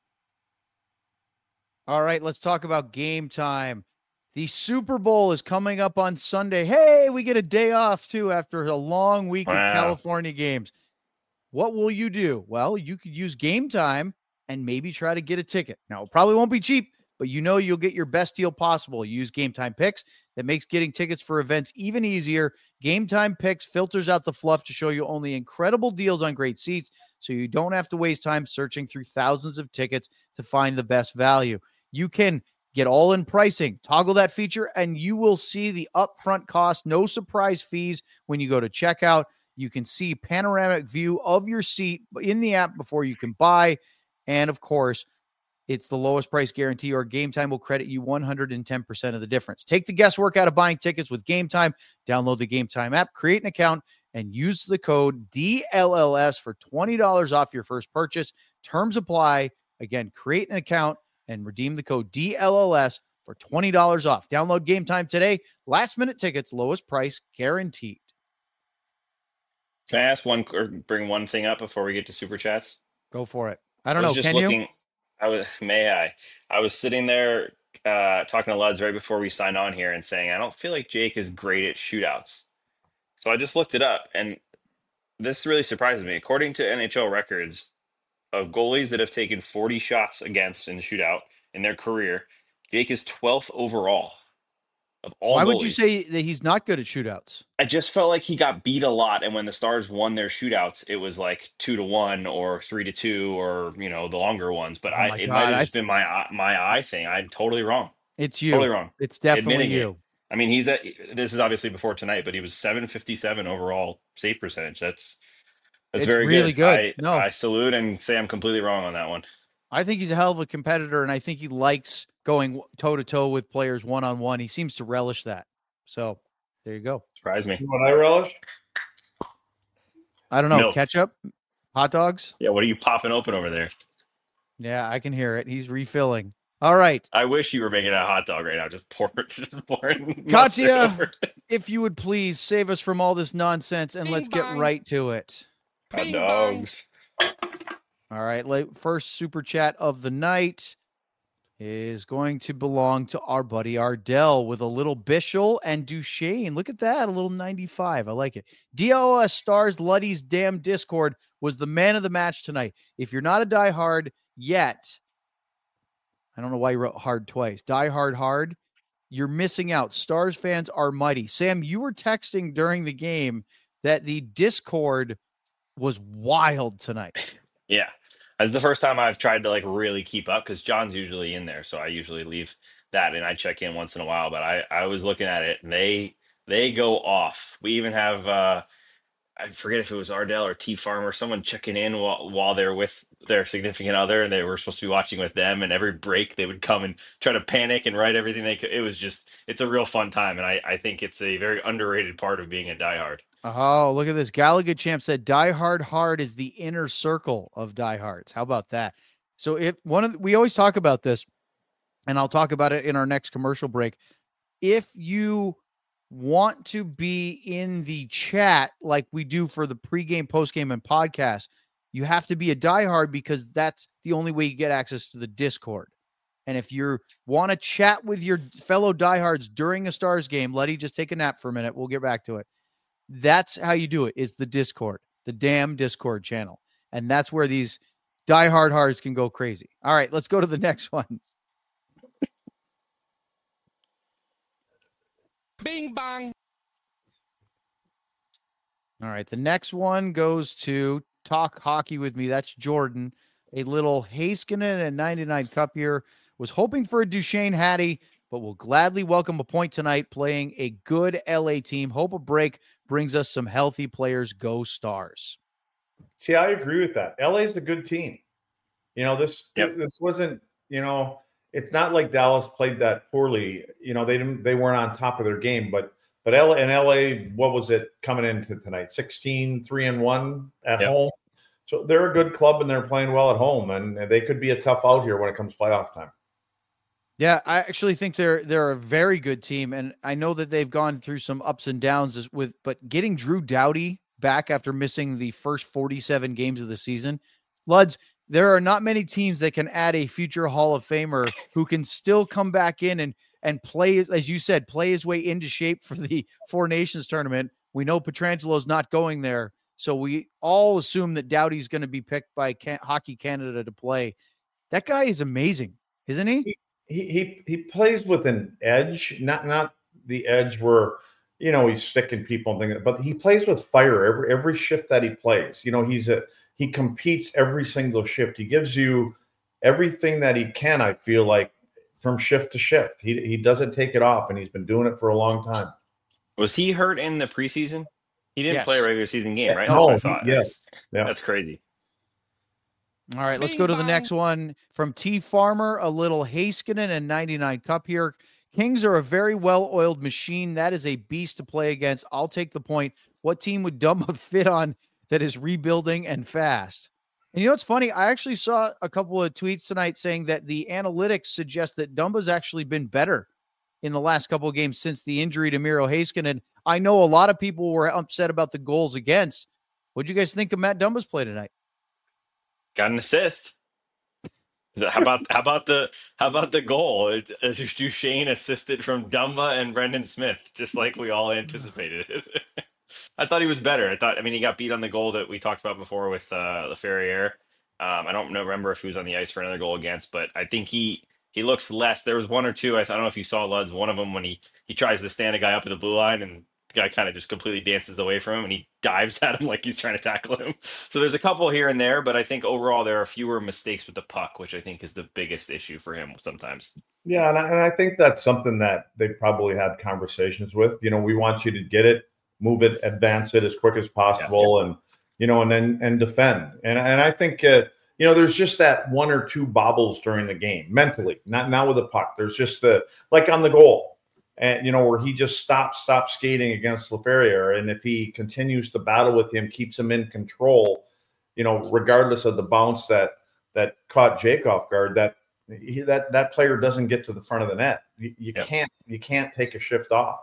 All right, let's talk about game time. The Super Bowl is coming up on Sunday. Hey, we get a day off too after a long week wow. of California games. What will you do? Well, you could use Game Time and maybe try to get a ticket. Now, it probably won't be cheap, but you know you'll get your best deal possible. Use Game Time Picks. That makes getting tickets for events even easier. Game Time Picks filters out the fluff to show you only incredible deals on great seats, so you don't have to waste time searching through thousands of tickets to find the best value. You can get all-in pricing, toggle that feature, and you will see the upfront cost, no surprise fees when you go to checkout. You can see panoramic view of your seat in the app before you can buy. And, of course, it's the lowest price guarantee, or Game Time will credit you one hundred ten percent of the difference. Take the guesswork out of buying tickets with Game Time. Download the Game Time app, create an account, and use the code D L L S for twenty dollars off your first purchase. Terms apply. Again, create an account and redeem the code D L L S for twenty dollars off. Download Game Time today. Last minute tickets, lowest price guaranteed. Can I ask one or bring one thing up before we get to super chats? Go for it. I don't I know. Just Can looking, you? I was, may I? I was sitting there uh, talking to Luds right before we signed on here and saying, I don't feel like Jake is great at shootouts. So I just looked it up, and this really surprises me. According to N H L records, of goalies that have taken forty shots against in the shootout in their career, Jake is twelfth overall. of all Why goalies. would you say that he's not good at shootouts? I just felt like he got beat a lot, and when the Stars won their shootouts, it was like two to one or three to two, or you know the longer ones. But Oh I, my it God, might have I just th- been my eye- my eye thing. I'm totally wrong. It's you. Totally wrong. It's definitely Admitting it. you. I mean, he's at. This is obviously before tonight, but he was seven fifty-seven overall save percentage. That's that's It's very really good. I No. I salute and say I'm completely wrong on that one. I think he's a hell of a competitor, and I think he likes going toe to toe with players one on one. He seems to relish that. So there you go. Surprise me. You know what I relish? I don't know. Milk. Ketchup, hot dogs. Yeah, what are you popping open over there? Yeah, I can hear it. He's refilling. All right. I wish you were making a hot dog right now. Just pour it, just pouring mustard Katya, over it. if you would please save us from all this nonsense and Bing let's get bong. right to it. Hot Bing bong. dogs. All right. Late, first super chat of the night is going to belong to our buddy Ardell with a little Bishel and Duchesne. Look at that. A little ninety-five. I like it. D L S Stars Luddy's damn Discord was the man of the match tonight. If you're not a diehard yet, I don't know why you wrote hard twice. Die hard hard. You're missing out. Stars fans are mighty. Sam, you were texting during the game that the Discord was wild tonight. Yeah. That's the first time I've tried to like really keep up because John's usually in there. So I usually leave that and I check in once in a while. But I, I was looking at it and they they go off. We even have uh I forget if it was Ardell or T Farmer, someone checking in while while they're with their significant other and they were supposed to be watching with them, and every break they would come and try to panic and write everything they could. It was just it's a real fun time, and I, I think it's a very underrated part of being a diehard. Oh, look at this. Gallagher Champ said Die Hard Hard is the inner circle of diehards. How about that? So if one of the, we always talk about this, and I'll talk about it in our next commercial break. If you want to be in the chat like we do for the pregame, postgame, and podcast, you have to be a diehard because that's the only way you get access to the Discord. And if you want to chat with your fellow diehards during a Stars game, Letty, just take a nap for a minute. We'll get back to it. That's how you do it, is the Discord, the damn Discord channel. And that's where these diehard hearts can go crazy. All right, let's go to the next one. Bing bong. All right, the next one goes to Talk Hockey with Me. That's Jordan. A little Heiskanen and ninety-nine Cup here. Was hoping for a Duchesne Hattie, but will gladly welcome a point tonight playing a good L A team. Hope a break brings us some healthy players. Go Stars. See, I agree with that. L A's a good team. You know, this Yep. this wasn't, you know, it's not like Dallas played that poorly. You know, they didn't they weren't on top of their game, but but L A and L A, what was it coming into tonight? sixteen, three and one at Yep. home. So they're a good club and they're playing well at home, and they could be a tough out here when it comes playoff time. Yeah, I actually think they're they're a very good team, and I know that they've gone through some ups and downs as with, but getting Drew Doughty back after missing the first forty-seven games of the season, Luds, there are not many teams that can add a future Hall of Famer who can still come back in and and play, as you said, play his way into shape for the Four Nations tournament. We know Petrangelo's not going there, so we all assume that Doughty's going to be picked by Can- Hockey Canada to play. That guy is amazing, isn't he? He he he plays with an edge, not not the edge where, you know, he's sticking people and things, but he plays with fire every every shift that he plays. You know, he's a he competes every single shift. He gives you everything that he can, I feel like, from shift to shift. He he doesn't take it off, and he's been doing it for a long time. Was he hurt in the preseason? He didn't Yes. play a regular season game, right? No, That's what I he- thought. yes. That's, Yeah. that's crazy. All right, let's Bing go to the bong. next one from T Farmer, a little Heiskanen and ninety-nine Cup here. Kings are a very well-oiled machine. That is a beast to play against. I'll take the point. What team would Dumba fit on that is rebuilding and fast? And you know what's funny? I actually saw a couple of tweets tonight saying that the analytics suggest that Dumba's actually been better in the last couple of games since the injury to Miro Heiskanen. I know a lot of people were upset about the goals against. What'd you guys think of Matt Dumba's play tonight? Got an assist. How about how about the how about the goal? It, uh, Duchesne assisted from Dumba and Brendan Smith, just like we all anticipated. I thought he was better. I thought, I mean, he got beat on the goal that we talked about before with uh, the Ferrier. Um, I don't know, remember if he was on the ice for another goal against, but I think he he looks less. There was one or two. I don't know if you saw Luds. One of them when he he tries to stand a guy up at the blue line, and the guy kind of just completely dances away from him, and he dives at him like he's trying to tackle him. So there's a couple here and there, but I think overall there are fewer mistakes with the puck, which I think is the biggest issue for him sometimes. Yeah, and I, and I think that's something that they probably had conversations with. You know, we want you to get it, move it, advance it as quick as possible, yeah. and you know, and then and defend. And and I think uh, you know, there's just that one or two bobbles during the game mentally, not not with the puck. There's just the like on the goal, and you know, where he just stops stops skating against Laferriere, and if he continues to battle with him, keeps him in control, you know, regardless of the bounce that that caught Jake off guard, that. He, that that player doesn't get to the front of the net. You, you yep. can't you can't take a shift off.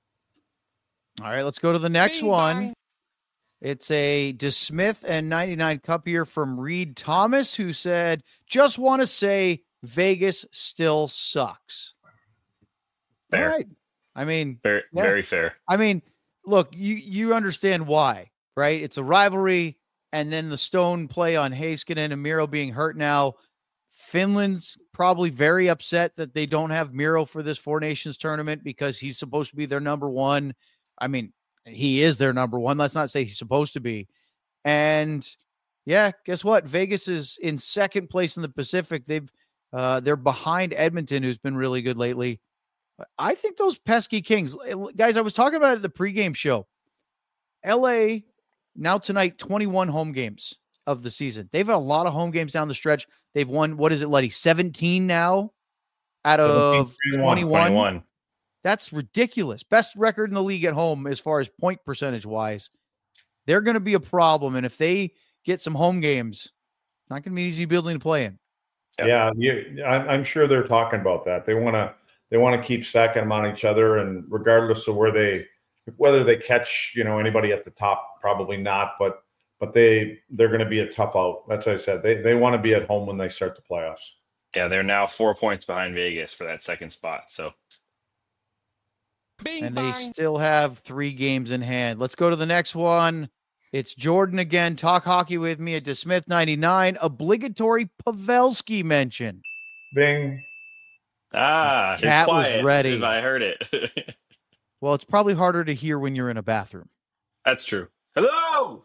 All right, let's go to the next Bing one. Bang. It's a DeSmith and ninety-nine cup here from Reed Thomas, who said, "Just want to say Vegas still sucks." Fair. All right. I mean, very yeah. very fair. I mean, look, you you understand why, right? It's a rivalry, and then the Stone play on Heiskanen and Miro being hurt now. Finland's probably very upset that they don't have Miro for this Four Nations tournament because he's supposed to be their number one. I mean, he is their number one. Let's not say he's supposed to be. And yeah, guess what? Vegas is in second place in the Pacific. They've uh, they're behind Edmonton, who's been really good lately. I think those pesky Kings, guys. I was talking about it at the pregame show. L A now tonight, twenty-one home games of the season. They've had a lot of home games down the stretch. They've won, what is it, Letty? seventeen now out of twenty-one. twenty-one. That's ridiculous. Best record in the league at home as far as point percentage wise. They're going to be a problem. And if they get some home games, it's not going to be an easy building to play in. Yeah, you, I'm sure they're talking about that. They want to they want to keep stacking them on each other. And regardless of where they, whether they catch, you know, anybody at the top, probably not. But But they, they're going to be a tough out. That's what I said. They they want to be at home when they start the playoffs. Yeah, they're now four points behind Vegas for that second spot. So, Bing, and bang. They still have three games in hand. Let's go to the next one. It's Jordan again. Talk hockey with me at DeSmith ninety-nine. Obligatory Pavelski mention. Bing. Ah, Cat quiet, was ready. If I heard it. Well, it's probably harder to hear when you're in a bathroom. That's true. Hello.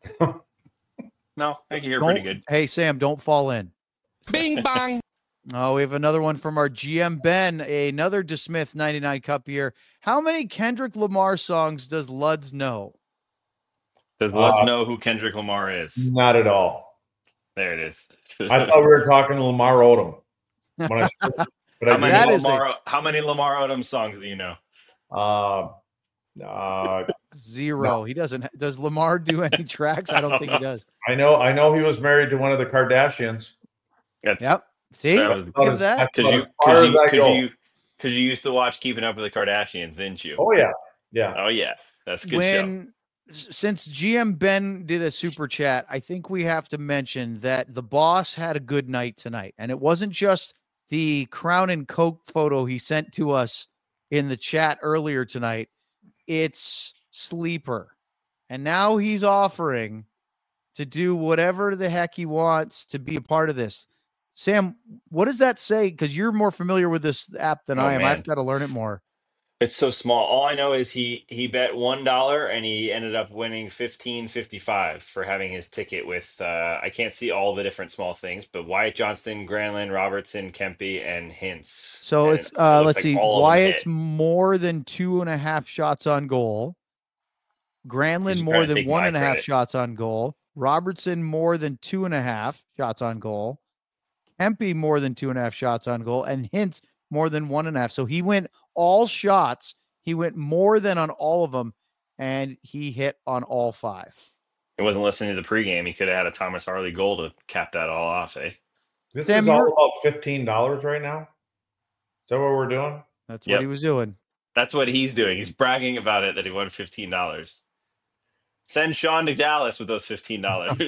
No, I can hear don't, pretty good. Hey, Sam, don't fall in. Bing bang. Oh, we have another one from our G M Ben, another DeSmith ninety-nine cup here. How many Kendrick Lamar songs does Luds know? Does Luds uh, know who Kendrick Lamar is? Not at all. There it is. I thought we were talking to Lamar Odom. When I, but how, I many Lamar, a, how many Lamar Odom songs do you know? Uh, uh, Zero. No. He doesn't. Does Lamar do any tracks? I don't, I don't think know. He does. I know. I know he was married to one of the Kardashians. That's, yep. See, that was, look at that. Because you, because you, because you, because you used to watch Keeping Up with the Kardashians, didn't you? Oh yeah, yeah. Oh yeah, that's a good when, show. Since G M Ben did a super chat, I think we have to mention that the boss had a good night tonight, and it wasn't just the Crown and Coke photo he sent to us in the chat earlier tonight. It's Sleeper, and now he's offering to do whatever the heck he wants to be a part of this. Sam, what does that say? Because you're more familiar with this app than oh, I am. Man. I've got to learn it more. It's so small. All I know is he he bet one dollar and he ended up winning fifteen fifty five for having his ticket with. Uh, I can't see all the different small things, but Wyatt Johnston, Granlund, Robertson, Kempe, and Hintz. So and it's uh, it let's like see. Wyatt's more than two and a half shots on goal. Granlund more than one and a half credit. shots on goal. Robertson more than two and a half shots on goal. Kempe more than two and a half shots on goal, and Hintz more than one and a half. So he went all shots. He went more than on all of them, and he hit on all five. He wasn't listening to the pregame. He could have had a Thomas Harley goal to cap that all off, eh? This Sam, is all about fifteen dollars right now? Is that what we're doing? That's yep. what he was doing. That's what he's doing. He's bragging about it that he won fifteen dollars. Send Sean to Dallas with those fifteen dollars.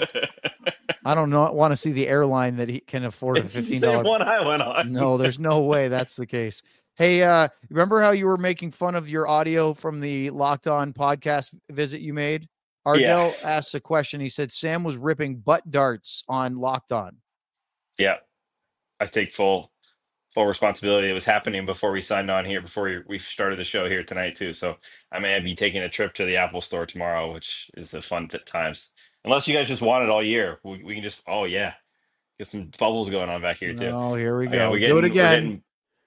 I don't know, want to see the airline that he can afford it's a fifteen the dollars. same one I went on. No, there's no way that's the case. Hey, uh, remember how you were making fun of your audio from the Locked On podcast visit you made? Ardell yeah. asked a question. He said Sam was ripping butt darts on Locked On. Yeah, I take full full responsibility. It was happening before we signed on here, before we, we started the show here tonight too. So I may be taking a trip to the Apple Store tomorrow, which is a fun th- times. Unless you guys just want it all year, we, we can just. Oh yeah, get some bubbles going on back here too. Oh, here we Oh, go. yeah, we Do it getting, we're again. getting.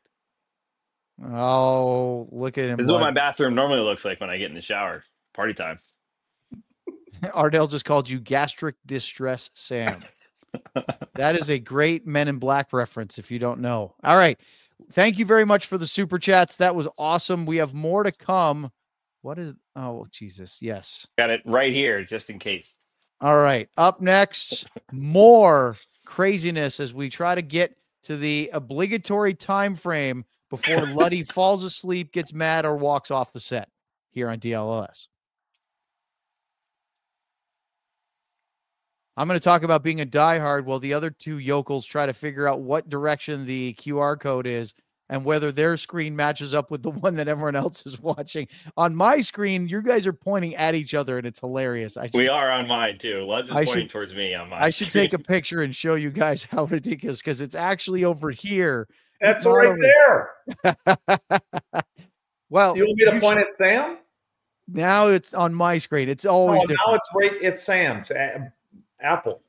Oh, look at him. This is what my Lutz. bathroom normally looks like when I get in the shower. Party time. Ardell just called you gastric distress Sam. That is a great Men in Black reference if you don't know. All right. Thank you very much for the super chats. That was awesome. We have more to come. What is oh Jesus. Yes. Got it right here, just in case. All right. Up next, more craziness as we try to get to the obligatory time frame before Luddy falls asleep, gets mad, or walks off the set here on D L L S. I'm going to talk about being a diehard while the other two yokels try to figure out what direction the Q R code is and whether their screen matches up with the one that everyone else is watching. On my screen, you guys are pointing at each other, and it's hilarious. I just, we are on mine, too. Lutz is I pointing should, towards me on mine. I should take a picture and show you guys how ridiculous, because it's actually over here. That's right over... there. Well, you want me to point should... at Sam? Now it's on my screen. It's always oh, different. Now it's right. It's Sam's. Apple.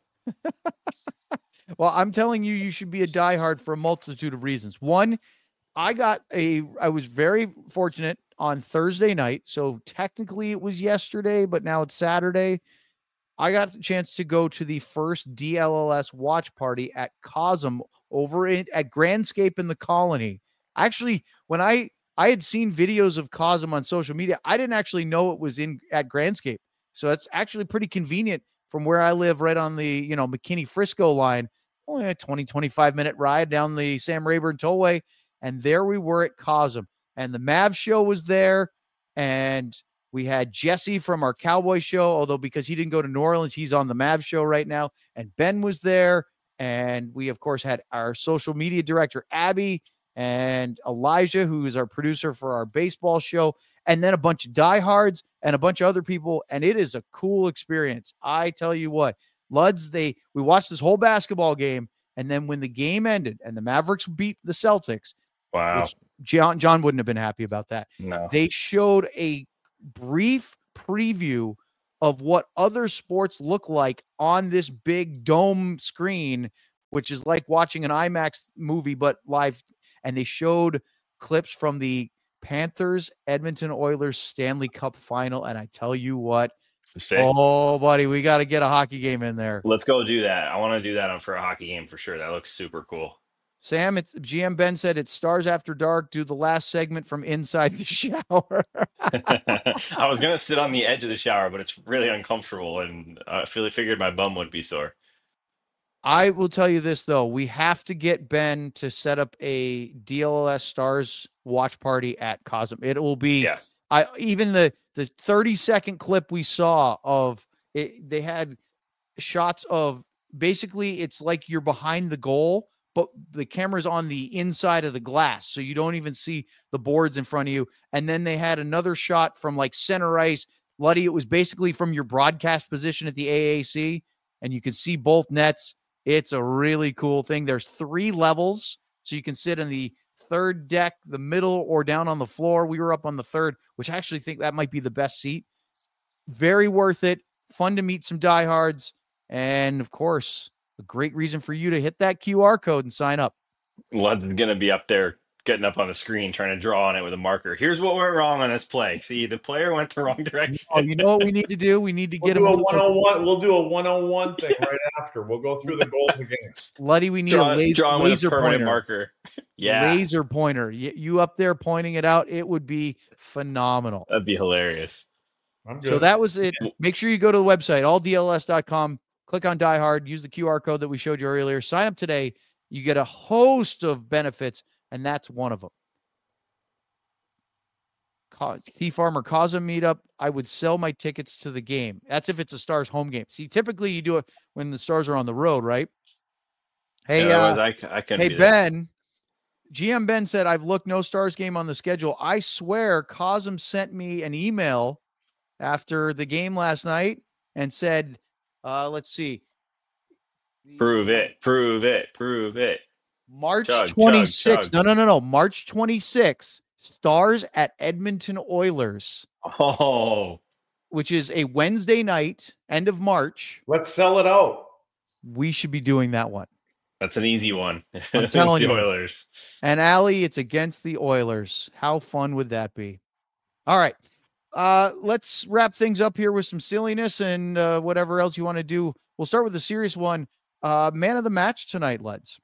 Well, I'm telling you, you should be a diehard for a multitude of reasons. One, I got a, I was very fortunate on Thursday night. So technically it was yesterday, but now it's Saturday. I got the chance to go to the first D L L S watch party at Cosm over in, at Grandscape in the Colony. Actually, when I, I had seen videos of Cosm on social media, I didn't actually know it was in at Grandscape. So it's actually pretty convenient from where I live, right on the, you know, McKinney-Frisco line, only a twenty, twenty-five minute ride down the Sam Rayburn Tollway. And there we were at Cosm. And the Mav show was there. And we had Jesse from our Cowboy show, although because he didn't go to New Orleans, he's on the Mav show right now. And Ben was there. And we, of course, had our social media director, Abby, and Elijah, who is our producer for our baseball show. And then a bunch of diehards and a bunch of other people. And it is a cool experience. I tell you what, Luds, they, we watched this whole basketball game. And then when the game ended and the Mavericks beat the Celtics, wow, which John, John wouldn't have been happy about that. No, they showed a brief preview of what other sports look like on this big dome screen, which is like watching an IMAX movie, but live. And they showed clips from the Panthers Edmonton Oilers Stanley Cup final. And I tell you what, oh buddy, we got to get a hockey game in there. Let's go do that. I want to do that for a hockey game for sure. That looks super cool. Sam, it's G M Ben said it's Stars After Dark. Do the last segment from inside the shower. I was going to sit on the edge of the shower, but it's really uncomfortable. And I really figured my bum would be sore. I will tell you this, though. We have to get Ben to set up a D L L S Stars watch party at Cosm. It will be, yeah. I even the the thirty second clip we saw of it, they had shots of basically it's like you're behind the goal, but the camera's on the inside of the glass. So you don't even see the boards in front of you. And then they had another shot from like center ice. Luddy, it was basically from your broadcast position at the A A C, and you could see both nets. It's a really cool thing. There's three levels, so you can sit in the third deck, the middle, or down on the floor. We were up on the third, which I actually think that might be the best seat. Very worth it. Fun to meet some diehards. And, of course, a great reason for you to hit that Q R code and sign up. Lud's going to be up there getting up on the screen trying to draw on it with a marker. Here's what went wrong on this play. See, the player went the wrong direction. Oh, you know what we need to do? We need to we'll get do him a one-on-one. We'll do a one-on-one thing right after. We'll go through the goals again. Luddy, we need draw, a laser, draw laser with a permanent pointer. marker. Yeah, laser pointer. You, you up there pointing it out? It would be phenomenal. That'd be hilarious. I'm good. So that was it. Make sure you go to the website, all D L S dot com. Click on Die Hard. Use the Q R code that we showed you earlier. Sign up today. You get a host of benefits, and that's one of them. P Farmer Cosm meetup. I would sell my tickets to the game. That's if it's a Stars home game. See, typically you do it when the Stars are on the road, right? Hey, yeah, uh, I, I hey Ben. G M Ben said, I've looked no Stars game on the schedule. I swear Cosm sent me an email after the game last night and said, uh, let's see. Prove it, prove it, prove it. March Chug, chug, twenty-sixth. chug. No, no, no, no. March twenty-sixth. Stars at Edmonton Oilers, Oh, which is a Wednesday night, end of March. Let's sell it out. We should be doing that one. that's an easy one. I'm It's telling the you. Oilers. And Allie, it's against the Oilers. How fun would that be? All right. Uh, let's wrap things up here with some silliness and uh, whatever else you want to do. We'll start with the serious one. Uh, man of the match tonight, Leds.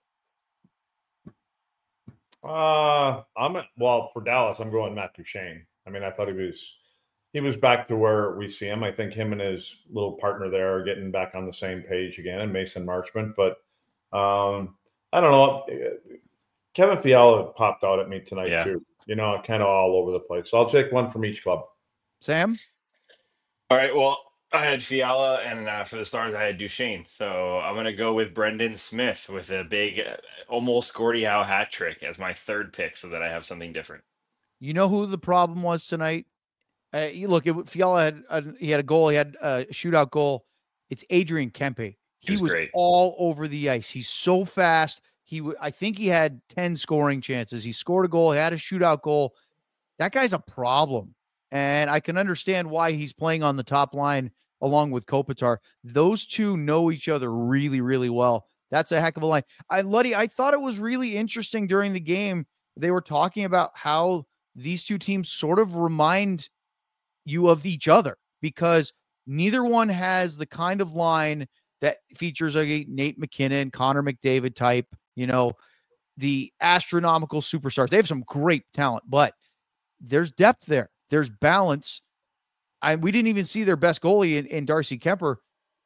Uh, I'm well for Dallas. I'm going Matt Duchene. I mean, I thought he was he was back to where we see him. I think him and his little partner there are getting back on the same page again, and Mason Marchment. But um, I don't know. Kevin Fiala popped out at me tonight Yeah. too. You know, kind of all over the place. So I'll take one from each club. Sam? All right. Well, I had Fiala, and uh, for the Stars, I had Duchesne. So I'm going to go with Brendan Smith with a big, uh, almost Gordie Howe hat trick as my third pick, so that I have something different. You know who the problem was tonight? Uh, you look, it, Fiala had uh, he had a goal. He had a shootout goal. It's Adrian Kempe. He was was great. all over the ice. He's so fast. He, w- I think he had ten scoring chances. He scored a goal. He had a shootout goal. That guy's a problem, and I can understand why he's playing on the top line along with Kopitar. Those two know each other really, really well. That's a heck of a line. I, Luddy, I thought it was really interesting during the game. They were talking about how these two teams sort of remind you of each other because neither one has the kind of line that features a Nate McKinnon, Connor McDavid type, you know, the astronomical superstars. They have some great talent, but there's depth there. There's balance. I, we didn't even see their best goalie in, in Darcy Kemper.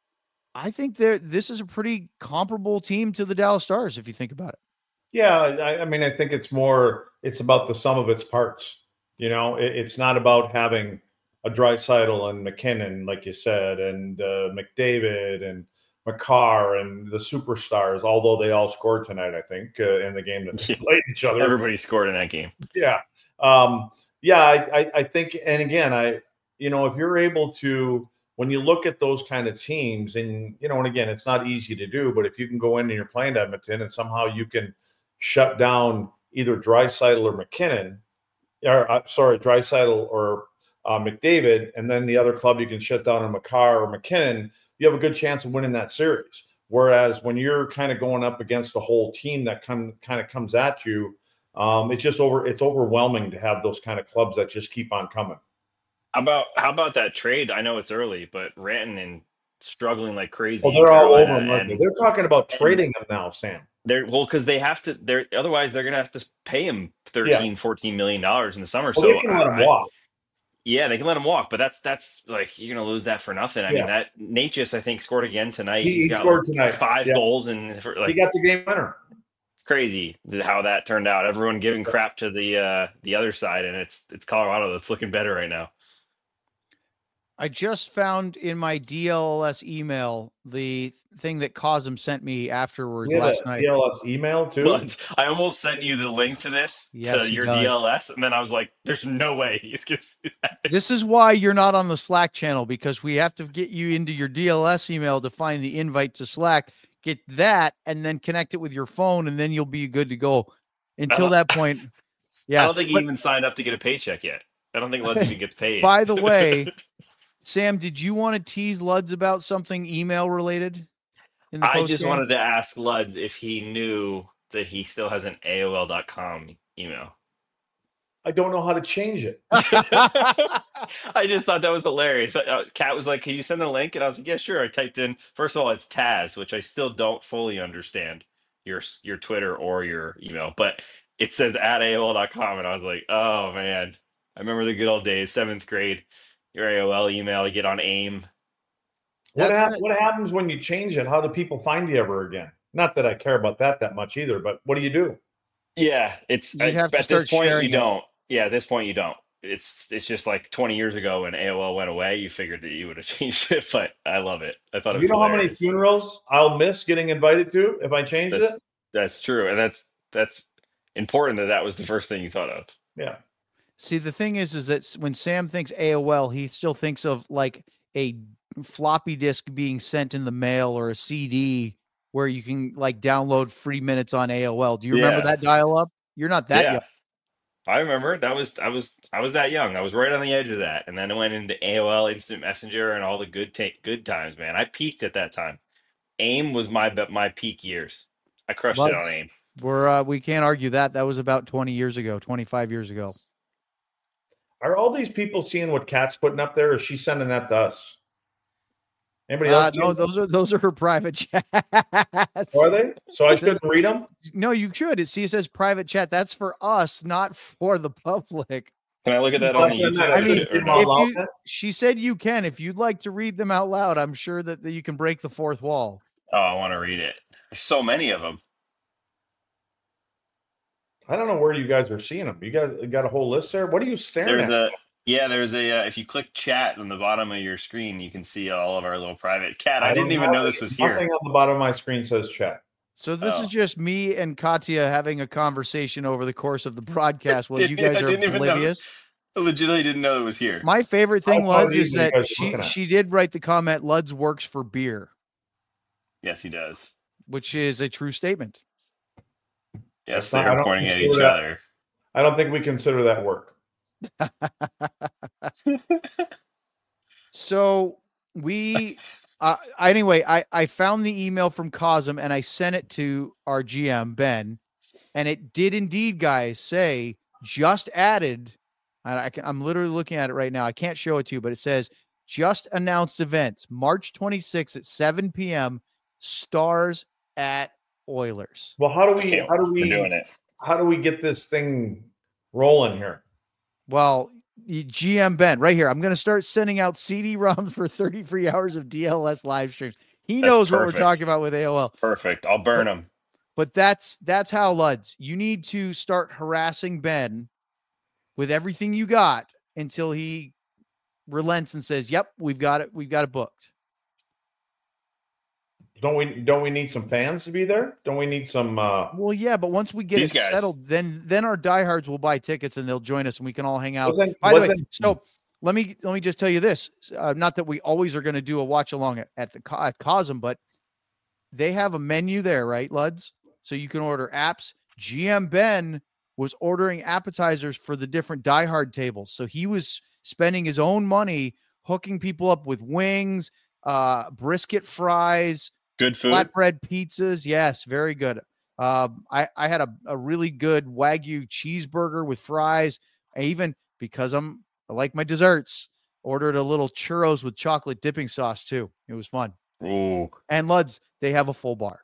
I think they're, this is a pretty comparable team to the Dallas Stars, if you think about it. Yeah, I, I mean, I think it's more, it's about the sum of its parts. You know, it, it's not about having a Draisaitl and McKinnon, like you said, and uh, McDavid and Makar and the superstars, although they all scored tonight, I think, uh, in the game that they played each other. Everybody scored in that game. Yeah. Um, yeah, I, I, I think, and again, I, you know, if you're able to, when you look at those kind of teams, and, you know, and again, it's not easy to do, but if you can go in and you're playing Edmonton and somehow you can shut down either Draisaitl or McKinnon, or uh, sorry, Draisaitl or uh, McDavid, and then the other club you can shut down on Makar or McKinnon, you have a good chance of winning that series. Whereas when you're kind of going up against the whole team that come, kind of comes at you, um, it's just over, it's overwhelming to have those kind of clubs that just keep on coming. How about how about that trade? I know it's early, but Rantanen struggling like crazy. Well, in they're all over Carolina, them. and They're talking about trading them now, Sam. they're well because they have to. They're otherwise they're gonna have to pay him thirteen, Yeah. fourteen million dollars in the summer. Well, so they can let I- them walk. Yeah, they can let him walk, but that's that's like you're gonna lose that for nothing. I Yeah. mean, that Natchez I think scored again tonight. He- He's he got scored like tonight. five Yeah. goals, and for, like He got the game winner. it's crazy th- how that turned out. Everyone giving crap to the uh, the other side, and it's it's Colorado that's looking better right now. I just found in my D L S email the thing that Cosm sent me afterwards He had last a night. D L S email too. But I almost sent you the link to this Yes, to he your does. D L S, and then I was like, "There's no way he's gonna see that." This is why you're not on the Slack channel, because we have to get you into your D L S email to find the invite to Slack. Get that and then connect it with your phone, and then you'll be good to go. Until that point, yeah. I don't think he But even signed up to get a paycheck yet. I don't think Luds even gets paid. by the way, Sam, did you want to tease Luds about something email related? In the I post just game? wanted to ask Luds if he knew that he still has an A O L dot com email. I don't know how to change it. I just thought that was hilarious. Uh, Kat was like, "Can you send the link?" And I was like, "Yeah, sure." I typed in, first of all, it's Taz, which I still don't fully understand your your Twitter or your email, but it says at A O L dot com, and I was like, "Oh man, I remember the good old days, seventh grade." Your A O L email, you get on AIM. What, That's hap- not- what happens when you change it? How do people find you ever again? Not that I care about that that much either, but what do you do? Yeah, it's You'd I- have to at this start point you sharing it. don't. Yeah, at this point you don't. It's it's just like twenty years ago when A O L went away, you figured that you would have changed it, but I love it. I thought it You was know how many hilarious. funerals I'll miss getting invited to if I change That's it? that's true, and that's that's important that that was the first thing you thought of. Yeah. See, the thing is, is that s- when Sam thinks A O L, he still thinks of like a floppy disk being sent in the mail or a C D where you can like download free minutes on A O L. Do you remember Yeah. that dial up? You're not that Yeah. young. I remember that was I was I was that young. I was right on the edge of that, and then it went into A O L Instant Messenger and all the good take good times, man. I peaked at that time. AIM was my my peak years. I crushed it Let's- on AIM. We're uh, we can't argue that. That was about twenty years ago, twenty-five years ago. Are all these people seeing what Kat's putting up there? Or is she sending that to us? Anybody Uh, else? no, those are those are her private chats. Are they? So I shouldn't read them? No, you should. It see it says private chat. That's for us, not for the public. Can I look at that on the YouTube? I mean, or no? if you, she said you can. If you'd like to read them out loud, I'm sure that, that you can break the fourth wall. Oh, I want to read it. There's so many of them. I don't know where you guys are seeing them. You guys got a whole list there? What are you staring There's at? a yeah, there's a uh, if you click chat on the bottom of your screen, you can see all of our little private cat. I, don't didn't even have know it. this was Nothing here. on the bottom of my screen says chat. So this Oh. is just me and Katya having a conversation over the course of the broadcast while you Didn't- guys I are didn't even know. oblivious. I legitimately didn't know it was here. My favorite thing, How Luds, funny is you that guys are she looking at. she did write the comment, Luds works for beer, Yes, he does. which is a true statement. Yes, That's not- I they're don't pointing at consider each that- other. I don't think we consider that work. So we, uh, anyway, I, I found the email from Cosm and I sent it to our G M, Ben, and it did indeed, guys, say just added. And I can, I'm literally looking at it right now. I can't show it to you, but it says just announced events, March twenty-sixth at seven p.m. Stars at Oilers. Well, how do we Okay, how do We're we doing it. how do we get this thing rolling here? Well, the G M Ben, right here. I'm going to start sending out C D ROMs for thirty free hours of D L S live streams. He That's knows what we're perfect. talking about with A O L. Perfect. I'll burn them. But that's that's how, Luds. You need to start harassing Ben with everything you got until he relents and says, "Yep, we've got it. We've got it booked." Don't we don't we need some fans to be there? Don't we need some uh Well, yeah, but once we get These it guys. settled, then then our diehards will buy tickets and they'll join us and we can all hang out. wasn't, By the way, wasn't- so let me let me just tell you this. Uh, not that we always are going to do a watch along at, at the Co- at Cosm, but they have a menu there, right, Luds? So you can order apps. G M Ben was ordering appetizers for the different diehard tables. So he was spending his own money hooking people up with wings, uh, brisket fries, Good food. flatbread pizzas. Yes, very good. Um, I, I had a, a really good Wagyu cheeseburger with fries. I even, because I'm I like my desserts, ordered a little churros with chocolate dipping sauce too. It was fun. Ooh. And Luds, they have a full bar.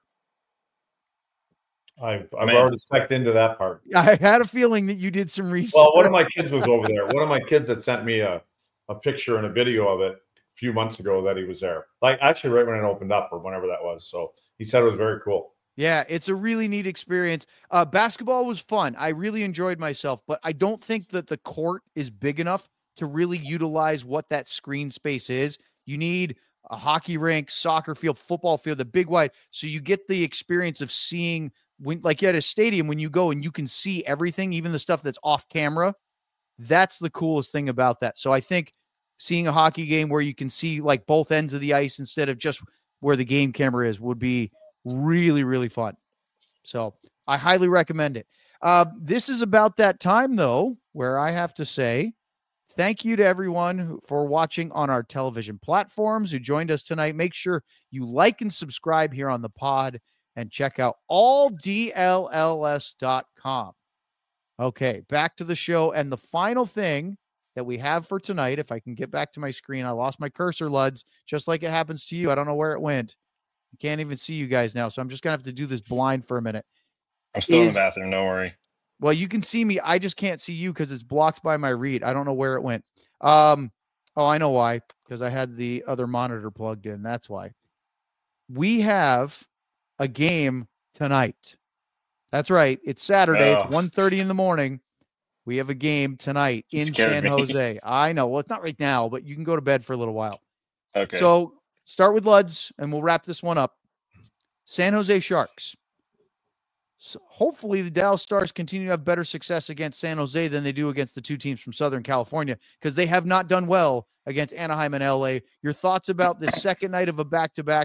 I've I've Man. already checked into that part. I had a feeling that you did some research. Well, one of my kids was over there. One of my kids had sent me a, a picture and a video of it a few months ago that he was there. Like actually right when it opened up or whenever that was. So he said it was very cool. Yeah, it's a really neat experience. Uh, basketball was fun. I really enjoyed myself, but I don't think that the court is big enough to really utilize what that screen space is. You need a hockey rink, soccer field, football field, the big wide, so you get the experience of seeing when, like at a stadium, when you go and you can see everything, even the stuff that's off camera. That's the coolest thing about that. So I think seeing a hockey game where you can see like both ends of the ice instead of just where the game camera is would be really, really fun. So I highly recommend it. Uh, this is about that time, though, where I have to say thank you to everyone who, for watching on our television platforms who joined us tonight. Make sure you like and subscribe here on the pod and check out all D L L S dot com. Okay, back to the show. And the final thing that we have for tonight, if I can get back to my screen, I lost my cursor, Luds, just like it happens to you. I don't know where it went. I can't even see you guys now, so I'm just going to have to do this blind for a minute. I'm still Is- in the bathroom. Don't worry. Well, you can see me. I just can't see you because it's blocked by my read. I don't know where it went. Um, oh, I know why. Because I had the other monitor plugged in. That's why. We have a game tonight. That's right. It's Saturday. Oh. It's one thirty in the morning. We have a game tonight You in scared San me. Jose. I know. Well, it's not right now, but you can go to bed for a little while. Okay. So start with Luds, and we'll wrap this one up. San Jose Sharks. So hopefully the Dallas Stars continue to have better success against San Jose than they do against the two teams from Southern California, because they have not done well against Anaheim and L A. Your thoughts about this second night of a back-to-back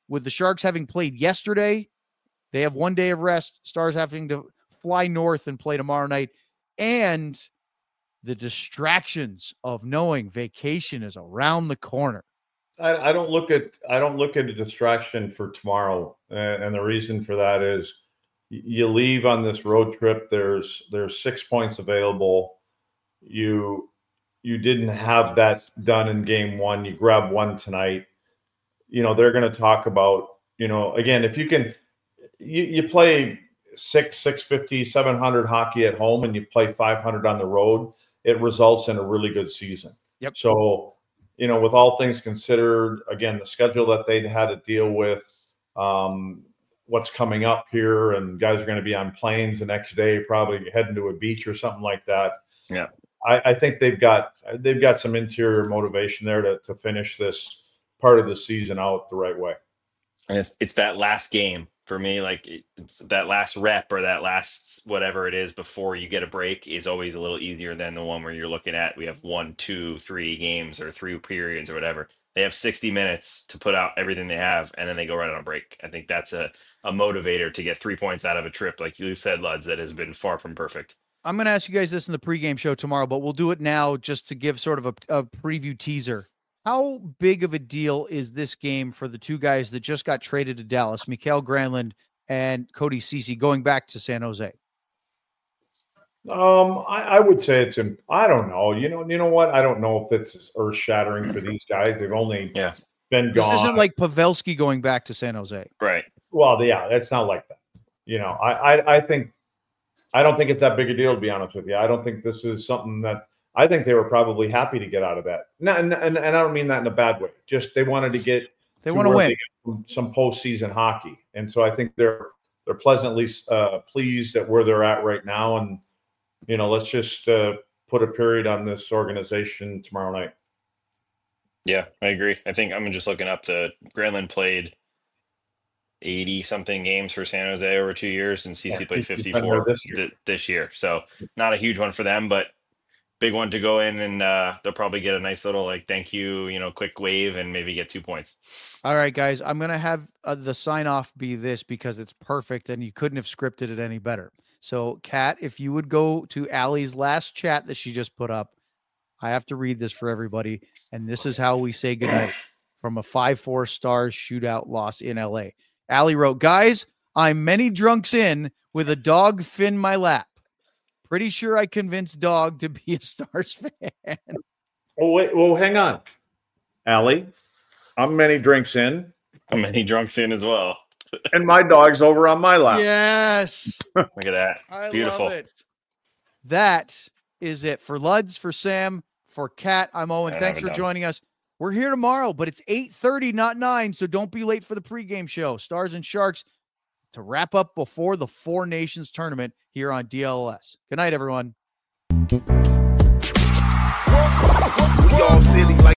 with the Sharks having played yesterday, they have one day of rest. Stars having to fly north and play tomorrow night. And the distractions of knowing vacation is around the corner. I, I don't look at I don't look at a distraction for tomorrow, and, and the reason for that is you leave on this road trip. There's there's six points available. You you didn't have that done in game one. You grab one tonight. You know they're going to talk about you know again if you can you you play six six fifty seven hundred hockey at home and you play five hundred on the road. It results in a really good season. Yep. So. You know, with all things considered, again, the schedule that they'd had to deal with, um, what's coming up here, and guys are going to be on planes the next day, probably heading to a beach or something like that. Yeah, I, I think they've got they've got some interior motivation there to to finish this part of the season out the right way. And it's it's that last game for me, like it's that last rep or that last whatever it is before you get a break is always a little easier than the one where you're looking at we have one, two, three games or three periods or whatever. They have sixty minutes to put out everything they have, and then they go right on a break. I think that's a, a motivator to get three points out of a trip, like you said, Luds, that has been far from perfect. I'm going to ask you guys this in the pregame show tomorrow, but we'll do it now just to give sort of a, a preview teaser. How big of a deal is this game for the two guys that just got traded to Dallas, Mikael Granlund and Cody Ceci, going back to San Jose? Um, I, I would say it's. I don't know. You know. You know what? I don't know if it's earth shattering for these guys. They've only yeah. been gone. This isn't like Pavelski going back to San Jose, right? Well, yeah, it's not like that. You know, I, I, I think, I don't think it's that big a deal. To be honest with you, I don't think this is something that. I think they were probably happy to get out of that. No, and, and, and I don't mean that in a bad way. Just they wanted to get. They want to win some, some postseason hockey, and so I think they're they're pleasantly uh, pleased at where they're at right now. And you know, let's just uh, put a period on this organization tomorrow night. Yeah, I agree. I think I'm just looking up the Granlund played eighty something games for San Jose over two years, and Ceci yeah, played fifty-four this year. Th- this year. So not a huge one for them, but big one to go in, and uh, they'll probably get a nice little like thank you, you know, quick wave, and maybe get two points. All right, guys, I'm gonna have uh, the sign off be this because it's perfect, and you couldn't have scripted it any better. So, Kat, if you would go to Allie's last chat that she just put up, I have to read this for everybody, and this is how we say goodnight from a five four Stars shootout loss in L A. Allie wrote, "Guys, I'm many drunks in with a dog fin my lap. Pretty sure I convinced Dog to be a Stars fan." Oh, wait. Well, hang on. Allie, I'm many drinks in. I'm many drunks in as well. And my dog's over on my lap. Yes. Look at that. I Beautiful. Love it. That is it for Luds, for Sam, for Kat. I'm Owen. Thanks for done. joining us. We're here tomorrow, but it's eight thirty, not nine, so don't be late for the pregame show. Stars and Sharks to wrap up before the Four Nations tournament here on D L S. Good night, everyone.